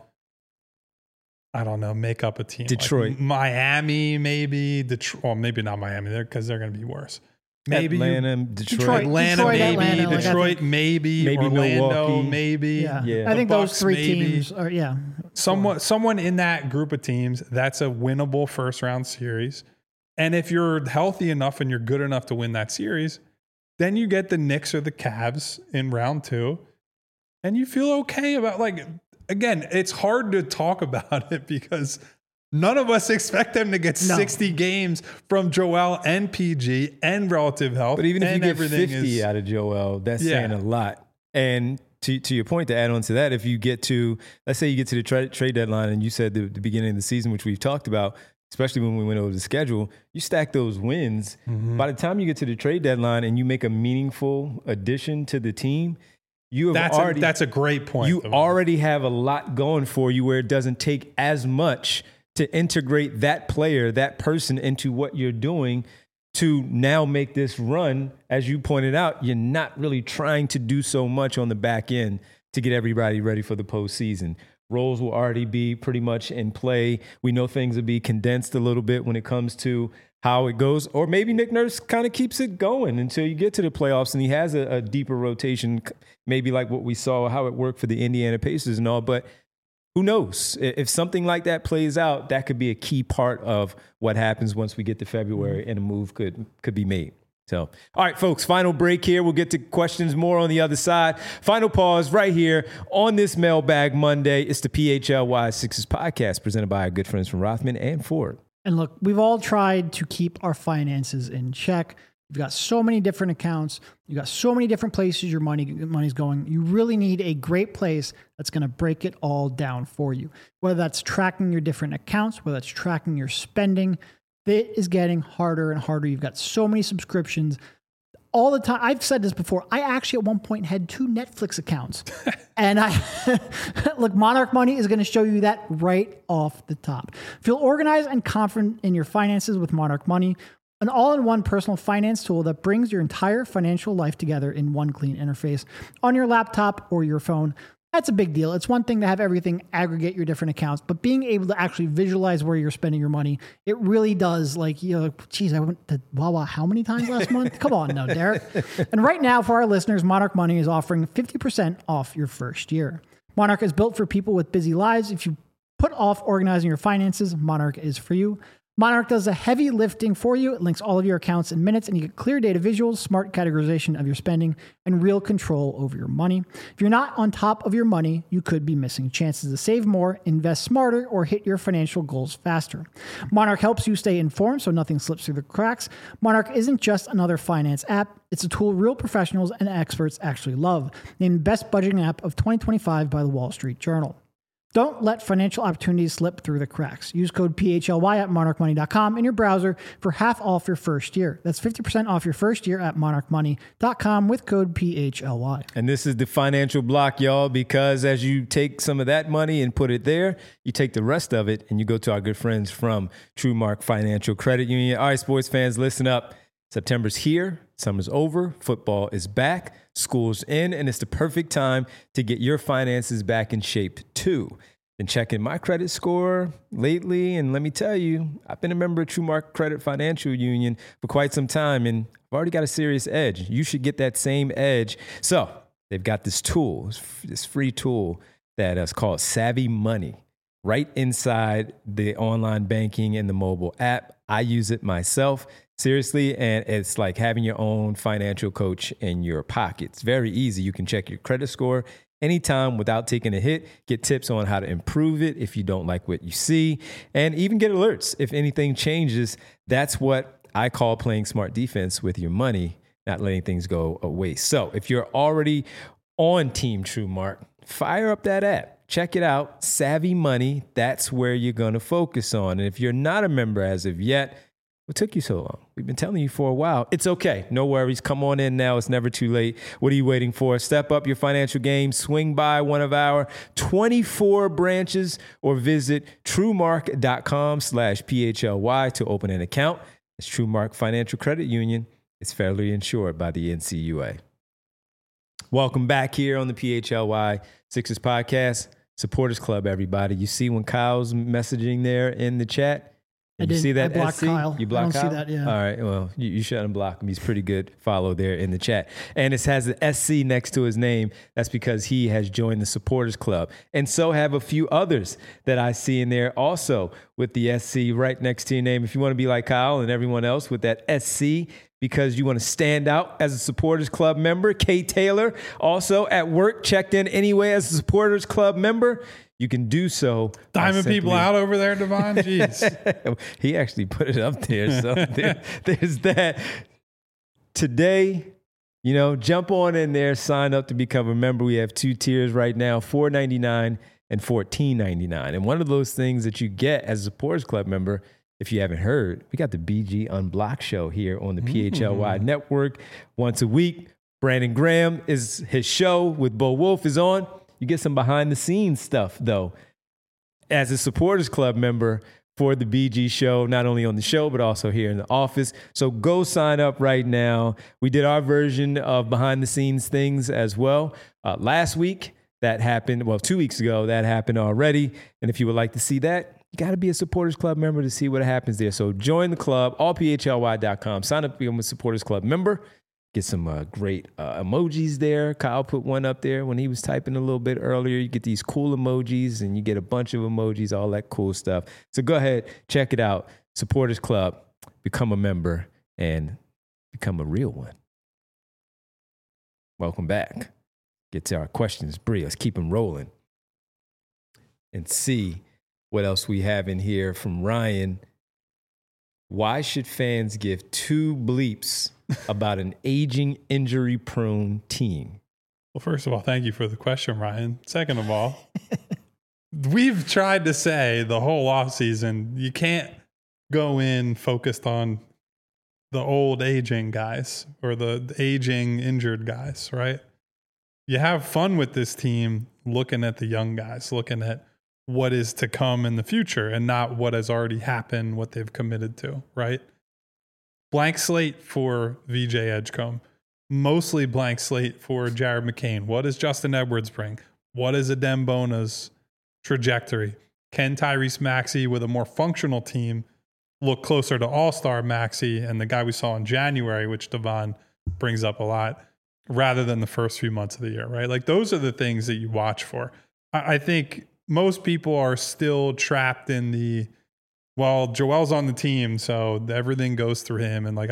I don't know, make up a team. Detroit. Like Miami, maybe. Detroit, well, maybe not Miami there, because they're going to be worse. Maybe Atlanta, Detroit, maybe. Like, Detroit, maybe. Orlando, Milwaukee. maybe. Yeah. I think Bucks, those 3 maybe. teams are, Someone in that group of teams, that's a winnable first round series. And if you're healthy enough and you're good enough to win that series, then you get the Knicks or the Cavs in round 2. And you feel okay about, like, again, it's hard to talk about it because none of us expect them to get 60 games from Joel and PG and relative health. But even if you get 50 out of Joel, that's saying a lot. And to your point, to add on to that, if you get to, let's say you get to the trade deadline and you said the beginning of the season, which we've talked about, especially when we went over the schedule, you stack those wins. By the time you get to the trade deadline and you make a meaningful addition to the team, that's a great point. You already have a lot going for you where it doesn't take as much to integrate that player, that person into what you're doing to now make this run. As you pointed out, you're not really trying to do so much on the back end to get everybody ready for the postseason. Roles will already be pretty much in play. We know things will be condensed a little bit when it comes to how it goes. Or maybe Nick Nurse kind of keeps it going until you get to the playoffs and he has a deeper rotation, maybe like what we saw, how it worked for the Indiana Pacers and all. But who knows? If something like that plays out, that could be a key part of what happens once we get to February and a move could be made. So, all right, folks, final break here. We'll get to questions more on the other side. Final pause right here on this Mailbag Monday. It's the PHLY Sixers podcast presented by our good friends from Rothman and Ford. And look, we've all tried to keep our finances in check. You've got so many different accounts. You've got so many different places your money's going. You really need a great place that's going to break it all down for you. Whether that's tracking your different accounts, whether that's tracking your spending, it is getting harder and harder. You've got so many subscriptions all the time. I've said this before. I actually at one point had 2 Netflix accounts. And look, Monarch Money is going to show you that right off the top. Feel organized and confident in your finances with Monarch Money, an all-in-one personal finance tool that brings your entire financial life together in one clean interface on your laptop or your phone. That's a big deal. It's one thing to have everything aggregate your different accounts, but being able to actually visualize where you're spending your money, it really does. Like, geez, I went to Wawa how many times last month? Come on now, Derek. And right now, for our listeners, Monarch Money is offering 50% off your first year. Monarch is built for people with busy lives. If you put off organizing your finances, Monarch is for you. Monarch does the heavy lifting for you. It links all of your accounts in minutes, and you get clear data visuals, smart categorization of your spending, and real control over your money. If you're not on top of your money, you could be missing chances to save more, invest smarter, or hit your financial goals faster. Monarch helps you stay informed so nothing slips through the cracks. Monarch isn't just another finance app. It's a tool real professionals and experts actually love. Named Best Budgeting App of 2025 by the Wall Street Journal. Don't let financial opportunities slip through the cracks. Use code PHLY at monarchmoney.com in your browser for half off your first year. That's 50% off your first year at monarchmoney.com with code PHLY. And this is the financial block, y'all, because as you take some of that money and put it there, you take the rest of it and you go to our good friends from TrueMark Financial Credit Union. All right, sports fans, listen up. September's here. Summer's over. Football is back. School's in. And it's the perfect time to get your finances back in shape, too. Been checking my credit score lately. And let me tell you, I've been a member of TrueMark Credit Financial Union for quite some time. And I've already got a serious edge. You should get that same edge. So they've got this tool, this free tool that is called Savvy Money, right inside the online banking and the mobile app. I use it myself. Seriously, and it's like having your own financial coach in your pocket. It's very easy. You can check your credit score anytime without taking a hit, get tips on how to improve it if you don't like what you see, and even get alerts if anything changes. That's what I call playing smart defense with your money, not letting things go waste. So if you're already on Team TrueMark, fire up that app. Check it out, Savvy Money. That's where you're going to focus on. And if you're not a member as of yet, what took you so long? We've been telling you for a while. It's okay. No worries. Come on in now. It's never too late. What are you waiting for? Step up your financial game. Swing by one of our 24 branches or visit truemark.com/PHLY to open an account. It's TrueMark Financial Credit Union. It's federally insured by the NCUA. Welcome back here on the PHLY Sixers podcast. Supporters Club, everybody. You see when Kyle's messaging there in the chat? I didn't. See that? I blocked SC? Kyle. You blocked I Kyle? don't see that, yeah. All right. Well, you should unblock him. He's pretty good. Follow there in the chat. And it has the SC next to his name. That's because he has joined the Supporters Club. And so have a few others that I see in there also with the SC right next to your name. If you want to be like Kyle and everyone else with that SC, because you want to stand out as a Supporters Club member. Kay Taylor, also at work, checked in anyway as a Supporters Club member. You can do so. Diamond people out over there, Devon. Jeez. He actually put it up there. So there's that. Today, jump on in there, sign up to become a member. We have 2 tiers right now, $4.99 and $14.99. And one of those things that you get as a Supporters Club member if you haven't heard, we got the BG Unblocked show here on the PHLY Mm-hmm. Network the BG Unblocked show here on the PHLY Network once a week. Brandon Graham is his show with Bo Wolf is on. You get some behind the scenes stuff though. As a supporters club member for the BG show, not only on the show, but also here in the office. So go sign up right now. We did our version of behind the scenes things as well. Last week that happened, 2 weeks ago, that happened already. And if you would like to see that, you got to be a Supporters Club member to see what happens there. So join the club, allphly.com. Sign up to become a Supporters Club member. Get some great emojis there. Kyle put one up there when he was typing a little bit earlier. You get these cool emojis and you get a bunch of emojis, all that cool stuff. So go ahead, check it out. Supporters Club, become a member and become a real one. Welcome back. Get to our questions. Bree, let's keep them rolling and see what else we have in here from Ryan. Why should fans give two bleeps about an aging, injury-prone team? Well, first of all, thank you for the question, Ryan. Second of all, we've tried to say the whole offseason, you can't go in focused on the old aging guys or the aging injured guys, right? You have fun with this team looking at the young guys, looking at what is to come in the future and not what has already happened, what they've committed to, right? Blank slate for VJ Edgecombe. Mostly blank slate for Jared McCain. What does Justin Edwards bring? What is Adem Bona's trajectory? Can Tyrese Maxey with a more functional team look closer to all-star Maxey and the guy we saw in January, which Devon brings up a lot, rather than the first few months of the year, right? Like those are the things that you watch for. I think most people are still trapped in the, well, Joel's on the team, so everything goes through him. And like,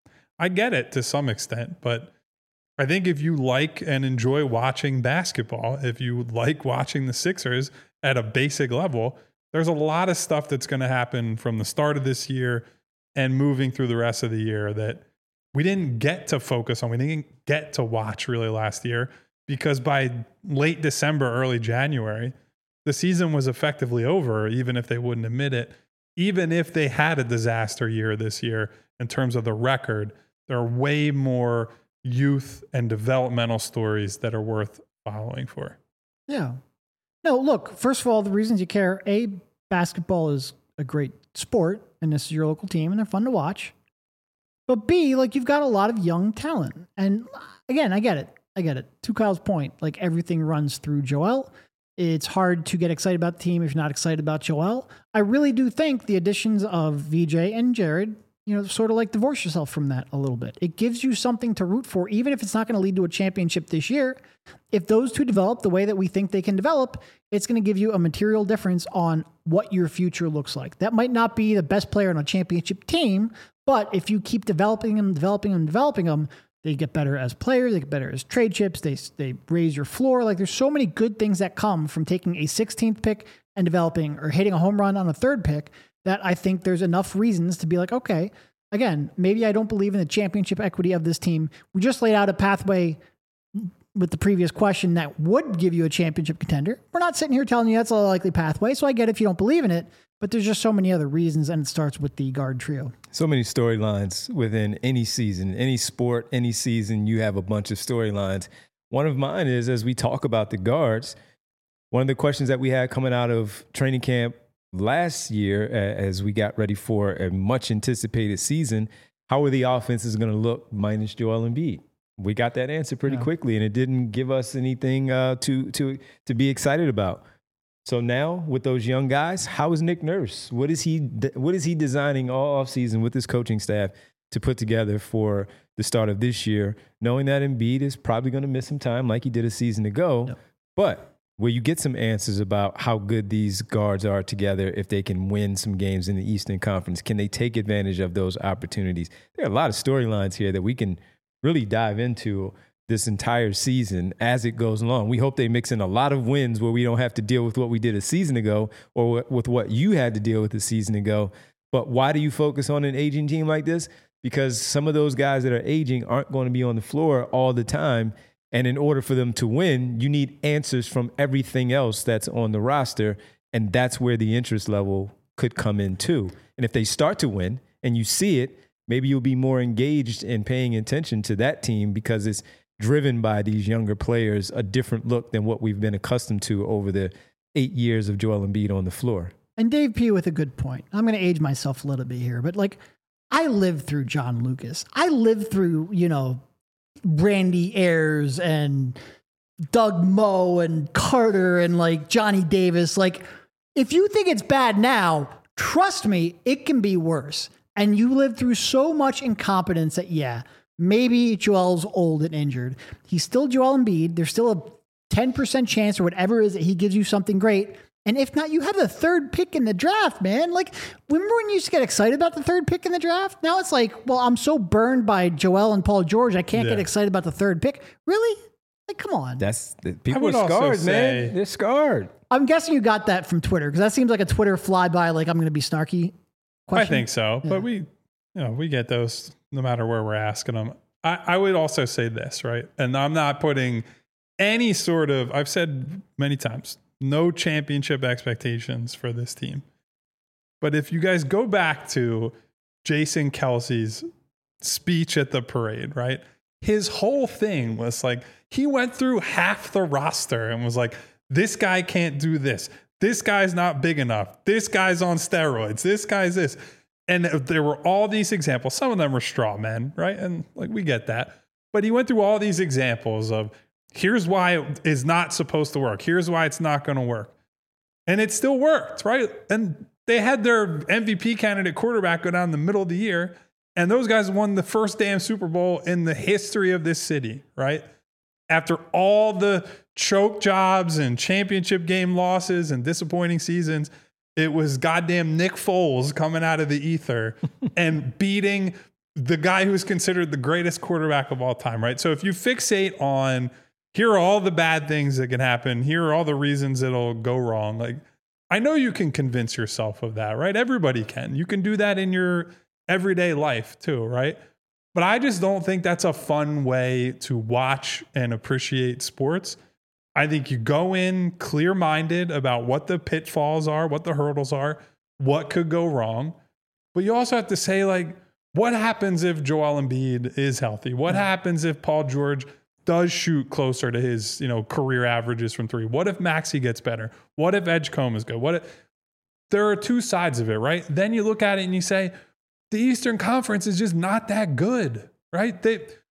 I get it to some extent, but I think if you like and enjoy watching basketball, if you like watching the Sixers at a basic level, there's a lot of stuff that's going to happen from the start of this year and moving through the rest of the year that we didn't get to focus on. We didn't get to watch really last year because by late December, early January, the season was effectively over, even if they wouldn't admit it. Even if they had a disaster year this year in terms of the record, there are way more youth and developmental stories that are worth following for. Yeah. No, look, first of all, the reasons you care, A, basketball is a great sport, and this is your local team, and they're fun to watch. But B, like, you've got a lot of young talent. And again, I get it. To Kyle's point, like, everything runs through Joel. It's hard to get excited about the team if you're not excited about Joel. I really do think the additions of VJ and Jared, sort of like divorce yourself from that a little bit. It gives you something to root for, even if it's not going to lead to a championship this year. If those two develop the way that we think they can develop, it's going to give you a material difference on what your future looks like. That might not be the best player on a championship team, but if you keep developing them, they get better as players, they get better as trade chips, they raise your floor. Like, there's so many good things that come from taking a 16th pick and developing or hitting a home run on a third pick that I think there's enough reasons to be like, okay, again, maybe I don't believe in the championship equity of this team. We just laid out a pathway with the previous question that would give you a championship contender. We're not sitting here telling you that's a likely pathway, so I get it if you don't believe in it, but there's just so many other reasons, and it starts with the guard trio. So many storylines within any season, any sport, any season, you have a bunch of storylines. One of mine is, as we talk about the guards, one of the questions that we had coming out of training camp last year, as we got ready for a much anticipated season, how are the offenses going to look minus Joel Embiid? We got that answer pretty quickly, and it didn't give us anything to be excited about. So now with those young guys, how is Nick Nurse? What is he designing all offseason with his coaching staff to put together for the start of this year, knowing that Embiid is probably going to miss some time like he did a season ago, but where you get some answers about how good these guards are together, if they can win some games in the Eastern Conference, can they take advantage of those opportunities? There are a lot of storylines here that we can really dive into this entire season as it goes along. We hope they mix in a lot of wins where we don't have to deal with what we did a season ago or with what you had to deal with a season ago. But why do you focus on an aging team like this? Because some of those guys that are aging aren't going to be on the floor all the time. And in order for them to win, you need answers from everything else that's on the roster. And that's where the interest level could come in too. And if they start to win and you see it, maybe you'll be more engaged in paying attention to that team because it's driven by these younger players, a different look than what we've been accustomed to over the 8 years of Joel Embiid on the floor. And Dave P. with a good point. I'm going to age myself a little bit here, but like I lived through John Lucas. I lived through, Randy Ayers and Doug Moe and Carter and like Johnny Davis. Like if you think it's bad now, trust me, it can be worse. And you lived through so much incompetence that, maybe Joel's old and injured. He's still Joel Embiid. There's still a 10% chance or whatever it is that he gives you something great. And if not, you have the third pick in the draft, man. Like, remember when you used to get excited about the third pick in the draft? Now it's like, well, I'm so burned by Joel and Paul George, I can't get excited about the third pick. Really? Like, come on. People are scarred, man. They're scarred. I'm guessing you got that from Twitter because that seems like a Twitter flyby. Like, I'm going to be snarky question. I think so, but we get those no matter where we're asking them. I would also say this, right? And I'm not putting any sort of, I've said many times, no championship expectations for this team. But if you guys go back to Jason Kelsey's speech at the parade, right? His whole thing was like, he went through half the roster and was like, this guy can't do this. This guy's not big enough. This guy's on steroids. This guy's this. And there were all these examples. Some of them were straw men, right? And like, we get that. But he went through all these examples of here's why it is not supposed to work. Here's why it's not going to work. And it still worked, right? And they had their MVP candidate quarterback go down the middle of the year. And those guys won the first damn Super Bowl in the history of this city, right? After all the choke jobs and championship game losses and disappointing seasons, it was goddamn Nick Foles coming out of the ether and beating the guy who's considered the greatest quarterback of all time, right? So if you fixate on here are all the bad things that can happen, here are all the reasons it'll go wrong, like I know you can convince yourself of that, right? Everybody can. You can do that in your everyday life too, right? But I just don't think that's a fun way to watch and appreciate sports. I think you go in clear-minded about what the pitfalls are, what the hurdles are, what could go wrong. But you also have to say, like, what happens if Joel Embiid is healthy? What happens if Paul George does shoot closer to his, career averages from three? What if Maxey gets better? What if Edgecombe is good? There are two sides of it, right? Then you look at it and you say, the Eastern Conference is just not that good, right?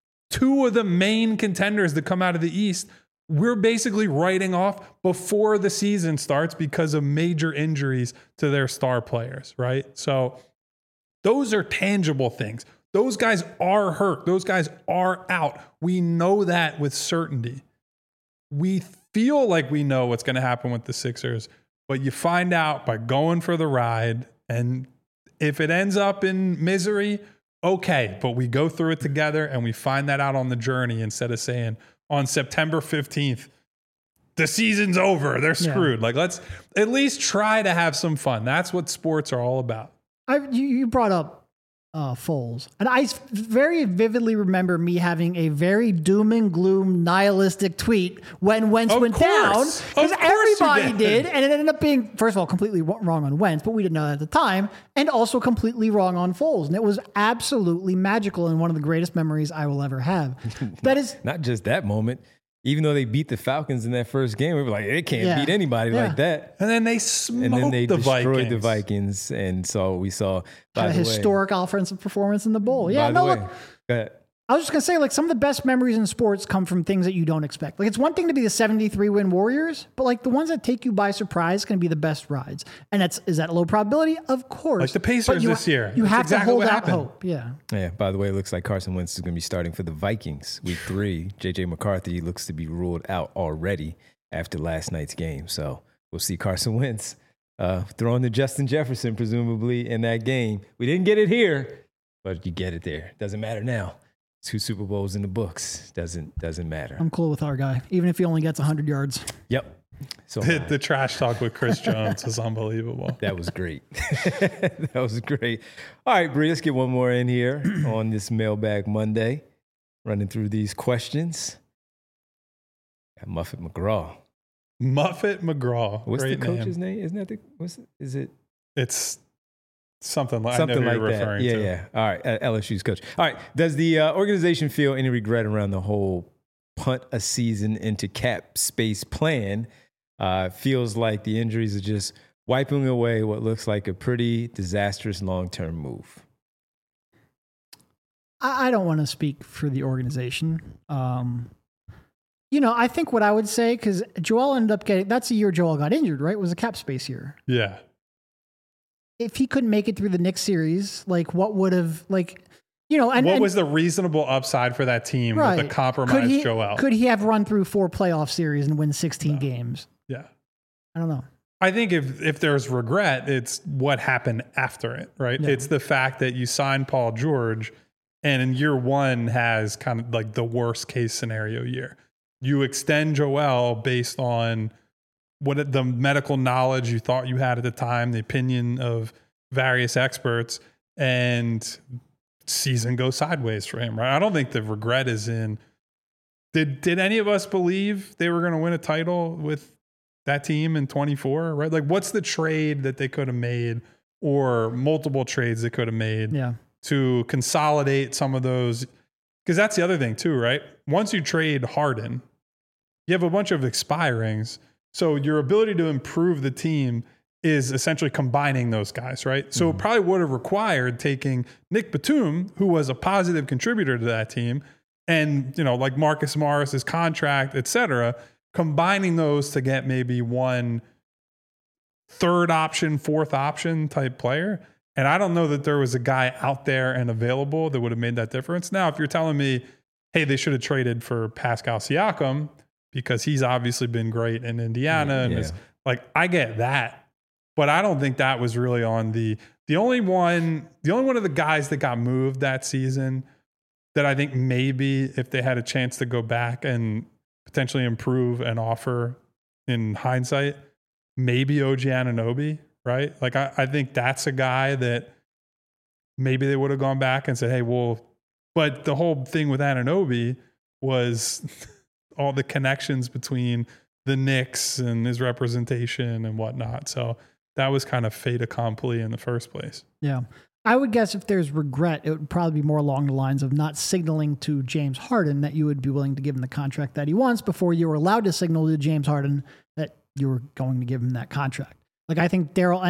Two of the main contenders that come out of the East, we're basically writing off before the season starts because of major injuries to their star players, right? So those are tangible things. Those guys are hurt. Those guys are out. We know that with certainty. We feel like we know what's going to happen with the Sixers, but you find out by going for the ride. And if it ends up in misery, okay, but we go through it together and we find that out on the journey instead of saying on September 15th, the season's over, they're screwed. Like, let's at least try to have some fun. That's what sports are all about. You brought up Foles. And I very vividly remember me having a very doom and gloom nihilistic tweet when Wentz went down. Because everybody did. And it ended up being, first of all, completely wrong on Wentz, but we didn't know that at the time. And also completely wrong on Foles. And it was absolutely magical and one of the greatest memories I will ever have. That is not just that moment. Even though they beat the Falcons in that first game, we were like, they can't beat anybody like that. And then they smoked destroyed the Vikings. And so we saw a historic offensive performance in the bowl. Yeah, look, go ahead. I was just going to say, like, some of the best memories in sports come from things that you don't expect. Like, it's one thing to be the 73-win Warriors, but, like, the ones that take you by surprise can be the best rides. And is that a low probability? Of course. Like the Pacers this year. You have to hold out hope. Yeah. Yeah, by the way, it looks like Carson Wentz is going to be starting for the Vikings week 3. J.J. McCarthy looks to be ruled out already after last night's game. So we'll see Carson Wentz throwing to Justin Jefferson, presumably, in that game. We didn't get it here, but you get it there. Doesn't matter now. 2 Super Bowls in the books. Doesn't matter. I'm cool with our guy, even if he only gets 100 yards. Yep. So the trash talk with Chris Jones is unbelievable. That was great. That was great. All right, Bree, let's get one more in here on this Mailbag Monday. Running through these questions. Got Muffet McGraw. Muffet McGraw. What's the coach's name? Isn't that is it? It's something like Something I know like who you're that. referring Yeah, to. yeah. All right, LSU's coach. All right, does the organization feel any regret around the whole punt a season into cap space plan? Feels like the injuries are just wiping away what looks like a pretty disastrous long-term move. I don't want to speak for the organization. I think what I would say, because Joel ended up that's the year Joel got injured, right? It was a cap space year. Yeah. If he couldn't make it through the Knicks series, like what would have, and what was the reasonable upside for that team with a compromised Joel? Could he have run through 4 playoff series and win 16 games? Yeah. I don't know. I think if there's regret, it's what happened after it, right? Yeah. It's the fact that you signed Paul George and in year one has kind of like the worst case scenario year. You extend Joel based on what the medical knowledge you thought you had at the time, the opinion of various experts, and season goes sideways for him, right? I don't think the regret is in. Did any of us believe they were going to win a title with that team in 24, right? Like, what's the trade that they could have made, or multiple trades they could have made to consolidate some of those? Because that's the other thing too, right? Once you trade Harden, you have a bunch of expirings. So your ability to improve the team is essentially combining those guys, right? So it probably would have required taking Nick Batum, who was a positive contributor to that team, and, like Marcus Morris's contract, et cetera, combining those to get maybe one third option, fourth option type player. And I don't know that there was a guy out there and available that would have made that difference. Now, if you're telling me, hey, they should have traded for Pascal Siakam because he's obviously been great in Indiana, and is like, I get that. But I don't think that was really on the only one of the guys that got moved that season that I think maybe if they had a chance to go back and potentially improve an offer in hindsight, maybe OG Anunoby, right? Like I think that's a guy that maybe they would have gone back and said, hey, well, but the whole thing with Anunoby was all the connections between the Knicks and his representation and whatnot. So that was kind of fait accompli in the first place. Yeah. I would guess if there's regret, it would probably be more along the lines of not signaling to James Harden that you would be willing to give him the contract that he wants before you were allowed to signal to James Harden that you were going to give him that contract. Like, I think Daryl,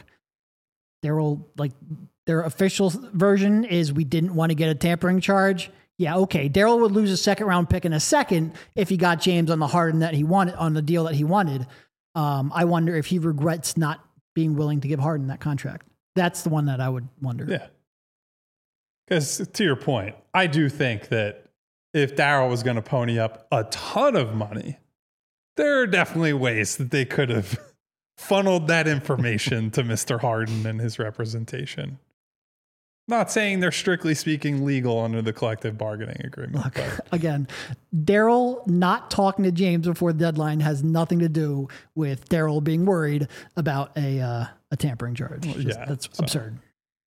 like, their official version is we didn't want to get a tampering charge. Yeah, okay. Daryl would lose a second round pick in a second if he got James on the Harden that he wanted, on the deal that he wanted. I wonder if he regrets not being willing to give Harden that contract. That's the one that I would wonder. Yeah. Because to your point, I do think that if Daryl was going to pony up a ton of money, there are definitely ways that they could have funneled that information to Mr. Harden and his representation. Not saying they're strictly speaking legal under the collective bargaining agreement. Look, again, Daryl not talking to James before the deadline has nothing to do with Daryl being worried about a tampering charge. That's absurd.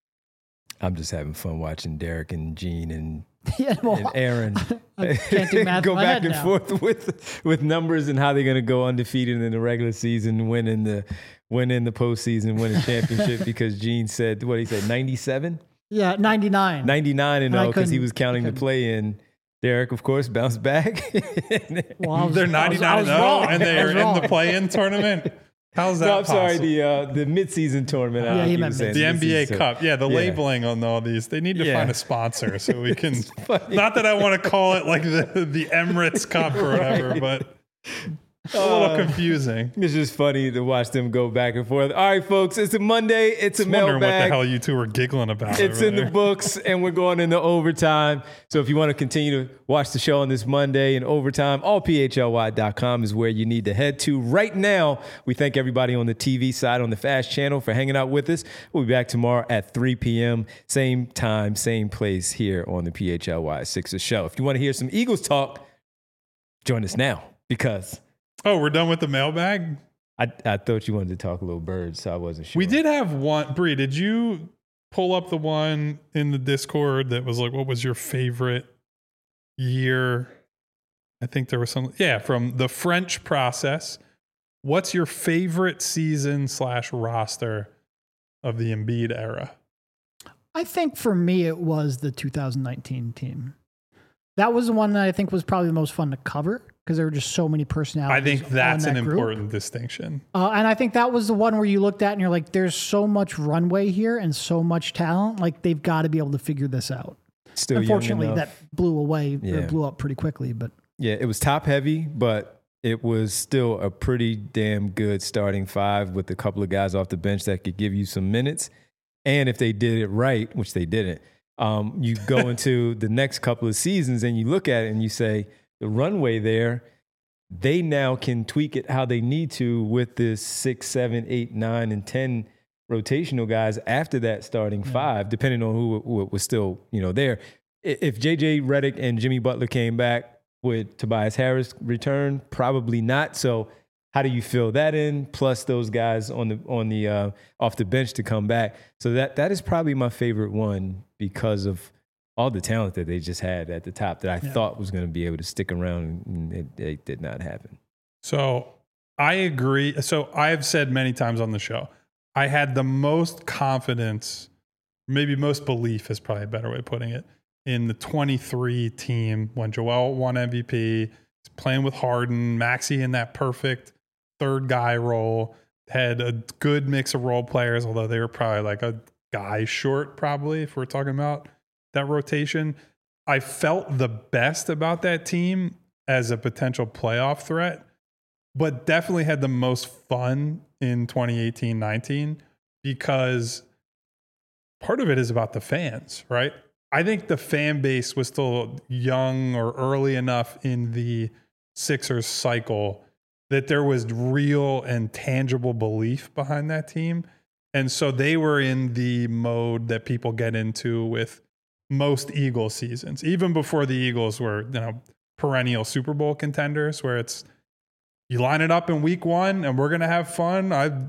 I'm just having fun watching Derek and Gene and Aaron I can't do math go in my back head and now. forth with numbers and how they're going to go undefeated in the regular season, win in the postseason, win a championship. Because Gene said, what he said, 97? Yeah, 99. 99 and 0 because he was counting the couldn't. play in. Derek, of course, bounced back. Well, they're 99 and they're in the play-in tournament. How's that No, I'm sorry, possible? the midseason tournament. Yeah, he meant The NBA Cup. Yeah, the labeling on all these. They need to find a sponsor so we can. Not that I want to call it like the Emirates Cup or whatever, but a little confusing. It's just funny to watch them go back and forth. All right, folks, it's a Monday. It's a Wondering what the mailbag. hell you two were giggling about. It's over in the there. books, and we're going into overtime. So if you want to continue to watch the show on this Monday in overtime, allphly.com is where you need to head to right now. We thank everybody on the TV side, on the Fast Channel, for hanging out with us. We'll be back tomorrow at 3 p.m., same time, same place here on the PHLY Sixers show. If you want to hear some Eagles talk, join us now because... Oh, we're done with the mailbag? I thought you wanted to talk a little birds, so I wasn't sure. We did have one. Bree, did you pull up the one in the Discord that was like, what was your favorite year? I think there was some, from the French Process. What's your favorite season / roster of the Embiid era? I think for me, it was the 2019 team. That was the one that I think was probably the most fun to cover because there were just so many personalities. I think that's an important distinction. And I think that was the one where you looked at and you're like, there's so much runway here and so much talent. Like, they've got to be able to figure this out. Still Unfortunately, young enough. that blew away, Yeah. blew up pretty quickly. But Yeah, it was top heavy, but it was still a pretty damn good starting five with a couple of guys off the bench that could give you some minutes. And if they did it right, which they didn't, you go into the next couple of seasons and you look at it and you say, the runway there, they now can tweak it how they need to with this 6, 7, 8, 9, and 10 rotational guys after that starting five, depending on who was still, there. If JJ Redick and Jimmy Butler came back, would Tobias Harris return? Probably not. So how do you fill that in? Plus those guys on the off the bench to come back. So that is probably my favorite one because of all the talent that they just had at the top that I thought was going to be able to stick around, and it did not happen. So I agree. So I've said many times on the show, I had the most confidence, maybe most belief is probably a better way of putting it, in the 23 team when Joel won MVP, he's playing with Harden, Maxey in that perfect third guy role, had a good mix of role players, although they were probably like a guy short probably if we're talking about that rotation. I felt the best about that team as a potential playoff threat, but definitely had the most fun in 2018-19 because part of it is about the fans, right? I think the fan base was still young or early enough in the Sixers cycle that there was real and tangible belief behind that team. And so they were in the mode that people get into with most Eagles seasons, even before the Eagles were, perennial Super Bowl contenders, where it's, you line it up in week one and we're going to have fun.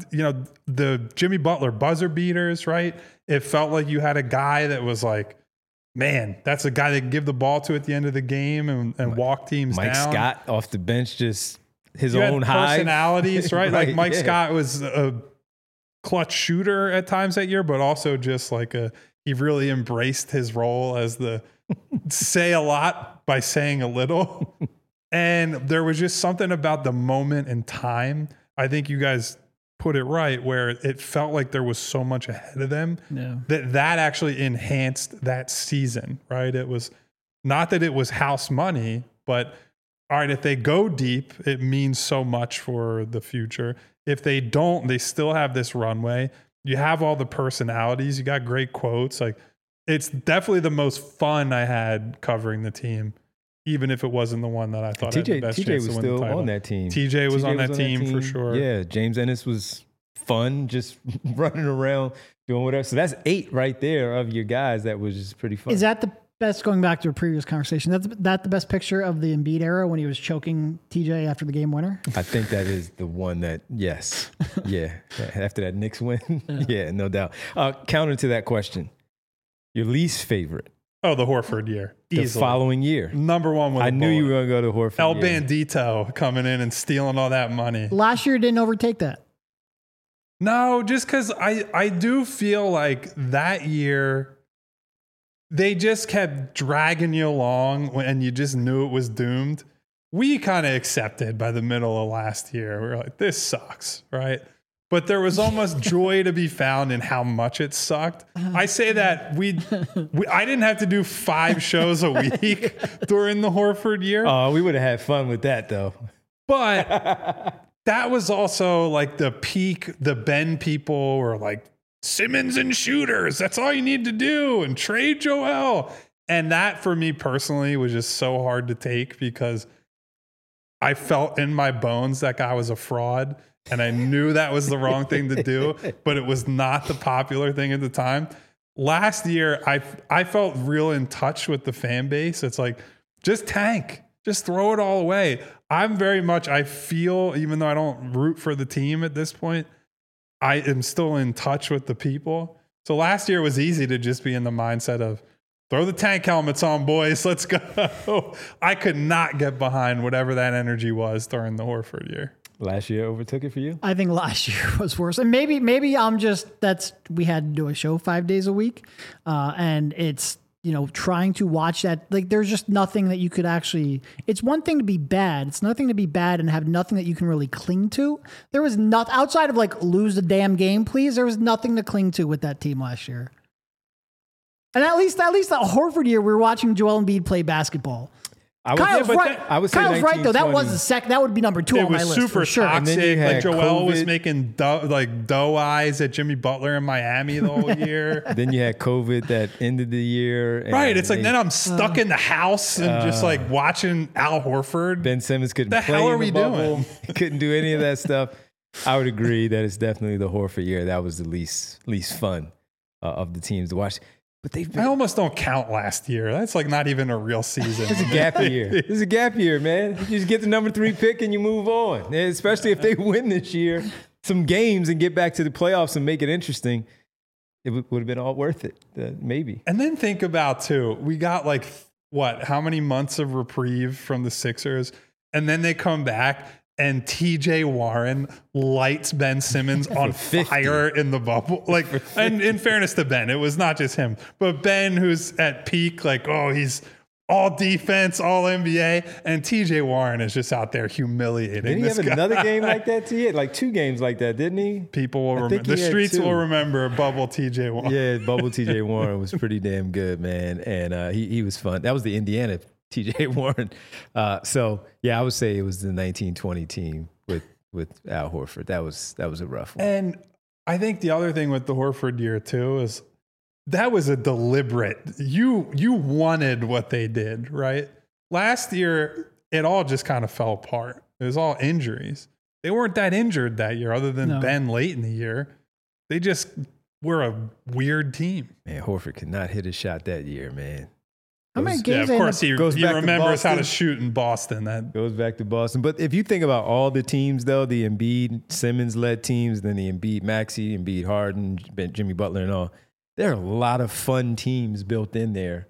The Jimmy Butler buzzer beaters, right? It felt like you had a guy that was like, man, that's a guy they can give the ball to at the end of the game and walk teams Mike down. Scott off the bench, just his You own had hive. personalities, right? Right, Like Mike yeah. Scott was a clutch shooter at times that year, but also just like he really embraced his role as the say a lot by saying a little. And there was just something about the moment in time. I think you guys put it right, where it felt like there was so much ahead of them that actually enhanced that season, right? It was not that it was house money, but all right, if they go deep, it means so much for the future. If they don't, they still have this runway. You have all the personalities. You got great quotes. Like, it's definitely the most fun I had covering the team, even if it wasn't the one that I thought had the best TJ chance was to win the still title. on that team. TJ was on that team for sure. Yeah, James Ennis was fun, just running around doing whatever. So that's 8 right there of your guys. That was just pretty fun. is that the best, going back to a previous conversation, that's the best picture of the Embiid era when he was choking TJ after the game winner? I think that is the one that, yes. Yeah. After that Knicks win. Yeah, no doubt. Counter to that question, your least favorite Oh, the Horford year. the Easily. following year. Number one with I a knew you were bullet. going to go to Horford. El yeah. Bandito coming in and stealing all that money. Last year didn't overtake that. No, just because I do feel like that year they just kept dragging you along and you just knew it was doomed. We kind of accepted by the middle of last year. We were like, this sucks, right? But there was almost joy to be found in how much it sucked. I say that I didn't have to do 5 shows a week during the Horford year. Oh, we would have had fun with that, though. But that was also like the peak. The Ben people were like, Simmons and shooters, that's all you need to do, and trade Joel. And that for me personally was just so hard to take because I felt in my bones that guy was a fraud. And I knew that was the wrong thing to do, but it was not the popular thing at the time. Last year, I felt real in touch with the fan base. It's like, just tank, just throw it all away. I feel, even though I don't root for the team at this point, I am still in touch with the people. So last year it was easy to just be in the mindset of, throw the tank helmets on, boys, let's go. I could not get behind whatever that energy was during the Horford year. Last year overtook it for you? I think last year was worse. And maybe I'm just, we had to do a show 5 days a week. And it's, trying to watch that, like, there's just nothing that you could actually, it's one thing to be bad. It's nothing to be bad and have nothing that you can really cling to. There was nothing outside of like, lose the damn game, please. There was nothing to cling to with that team last year. And at least the Horford year, we were watching Joel Embiid play basketball. Kyle's right. Kyle's right, though. That was the second. That would be number 2 on my list. It was super for sure. toxic. Like Joel COVID. was making doe eyes at Jimmy Butler in Miami the whole year. Then you had COVID that ended the year. Right. It's like then I'm stuck in the house and just like watching Al Horford. Ben Simmons couldn't the play hell are in the we bubble. doing? Couldn't do any of that stuff. I would agree that it's definitely the Horford year. That was the least fun of the teams to watch. But I almost don't count last year. That's like not even a real season. It's a gap year. It's a gap year, man. You just get the number 3 pick and you move on. And especially if they win this year, some games and get back to the playoffs and make it interesting, it would have been all worth it. Maybe. And then think about too, we got like how many months of reprieve from the Sixers, and then they come back. And TJ Warren lights Ben Simmons on fire in the bubble. Like, and in fairness to Ben, it was not just him, but Ben, who's at peak, like, he's all defense, all NBA, and TJ Warren is just out there humiliating. Didn't he have another game like that too? He had like 2 games like that, didn't he? People will remember. The streets will remember bubble TJ Warren. Yeah, bubble TJ Warren was pretty damn good, man, and he was fun. That was the Indiana TJ Warren. So yeah, I would say it was the 1920 team with Al Horford. That was a rough one. And I think the other thing with the Horford year too is that was a deliberate. You wanted what they did, right? Last year, it all just kind of fell apart. It was all injuries. They weren't that injured that year, other than Ben late in the year. They just were a weird team. Man, Horford could not hit a shot that year, man. How many games? Yeah, of course, he remembers how to Boston. shoot in Boston. That Goes back to Boston. But if you think about all the teams, though, the Embiid, Simmons-led teams, then the Embiid, Maxey, Embiid, Harden, Jimmy Butler and all, there are a lot of fun teams built in there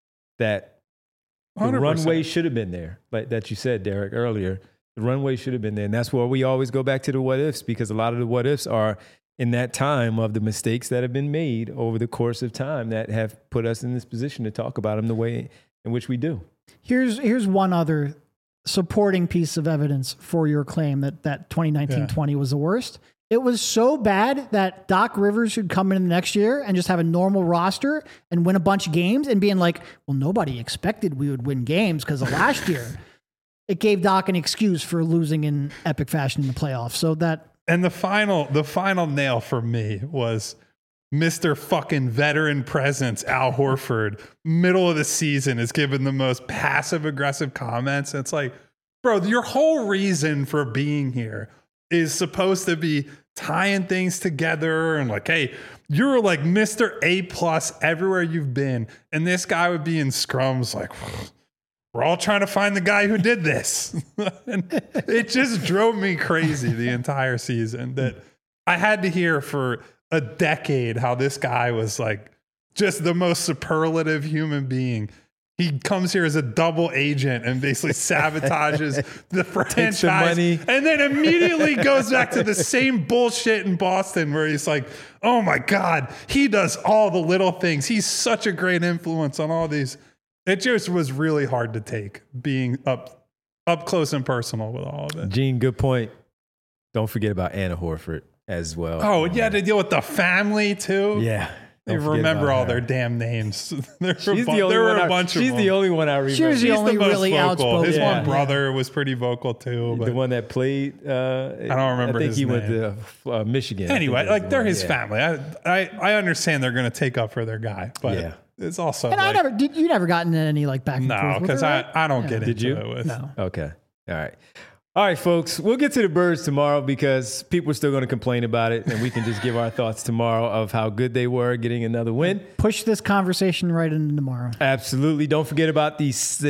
that the 100%. runway should have been there. Like that you said, Derek, earlier. The runway should have been there. And that's where we always go back to the what-ifs, because a lot of the what-ifs are in that time of the mistakes that have been made over the course of time that have put us in this position to talk about them the way in which we do. Here's one other supporting piece of evidence for your claim that 2019-20 was the worst. It was so bad that Doc Rivers should come in the next year and just have a normal roster and win a bunch of games and being like, well, nobody expected we would win games because of last year. It gave Doc an excuse for losing in epic fashion in the playoffs. So that. And the final nail for me was Mr. fucking veteran presence, Al Horford, middle of the season, is giving the most passive aggressive comments. And it's like, bro, your whole reason for being here is supposed to be tying things together and like, hey, you're like Mr. A+ everywhere you've been. And this guy would be in scrums like, we're all trying to find the guy who did this. And it just drove me crazy the entire season that I had to hear for a decade how this guy was like just the most superlative human being. He comes here as a double agent and basically sabotages the franchise money. and then immediately goes back to the same bullshit in Boston where he's like, oh my God, he does all the little things. He's such a great influence on all these. It just was really hard to take being up close and personal with all of it. Gene, good point. Don't forget about Anna Horford as well. Oh, yeah, to deal with the family too. Yeah. They remember all their damn names. There She's were a bunch of them. She's the only one I remember. She was the only most really vocal. outspoken. His Yeah. one brother was pretty vocal too. But The one that played. I don't remember I think his he went name. to Michigan. I anyway, think like that's they're the one. his Yeah. family. I understand they're going to take up for their guy, but Yeah. it's also And like, you never gotten in any like back and forth no, with because her, right? I don't get Did into you? it with. No. Okay. All right. All right, folks. We'll get to the Birds tomorrow because people are still going to complain about it, and we can just give our thoughts tomorrow of how good they were getting another win. Push this conversation right into tomorrow. Absolutely. Don't forget about the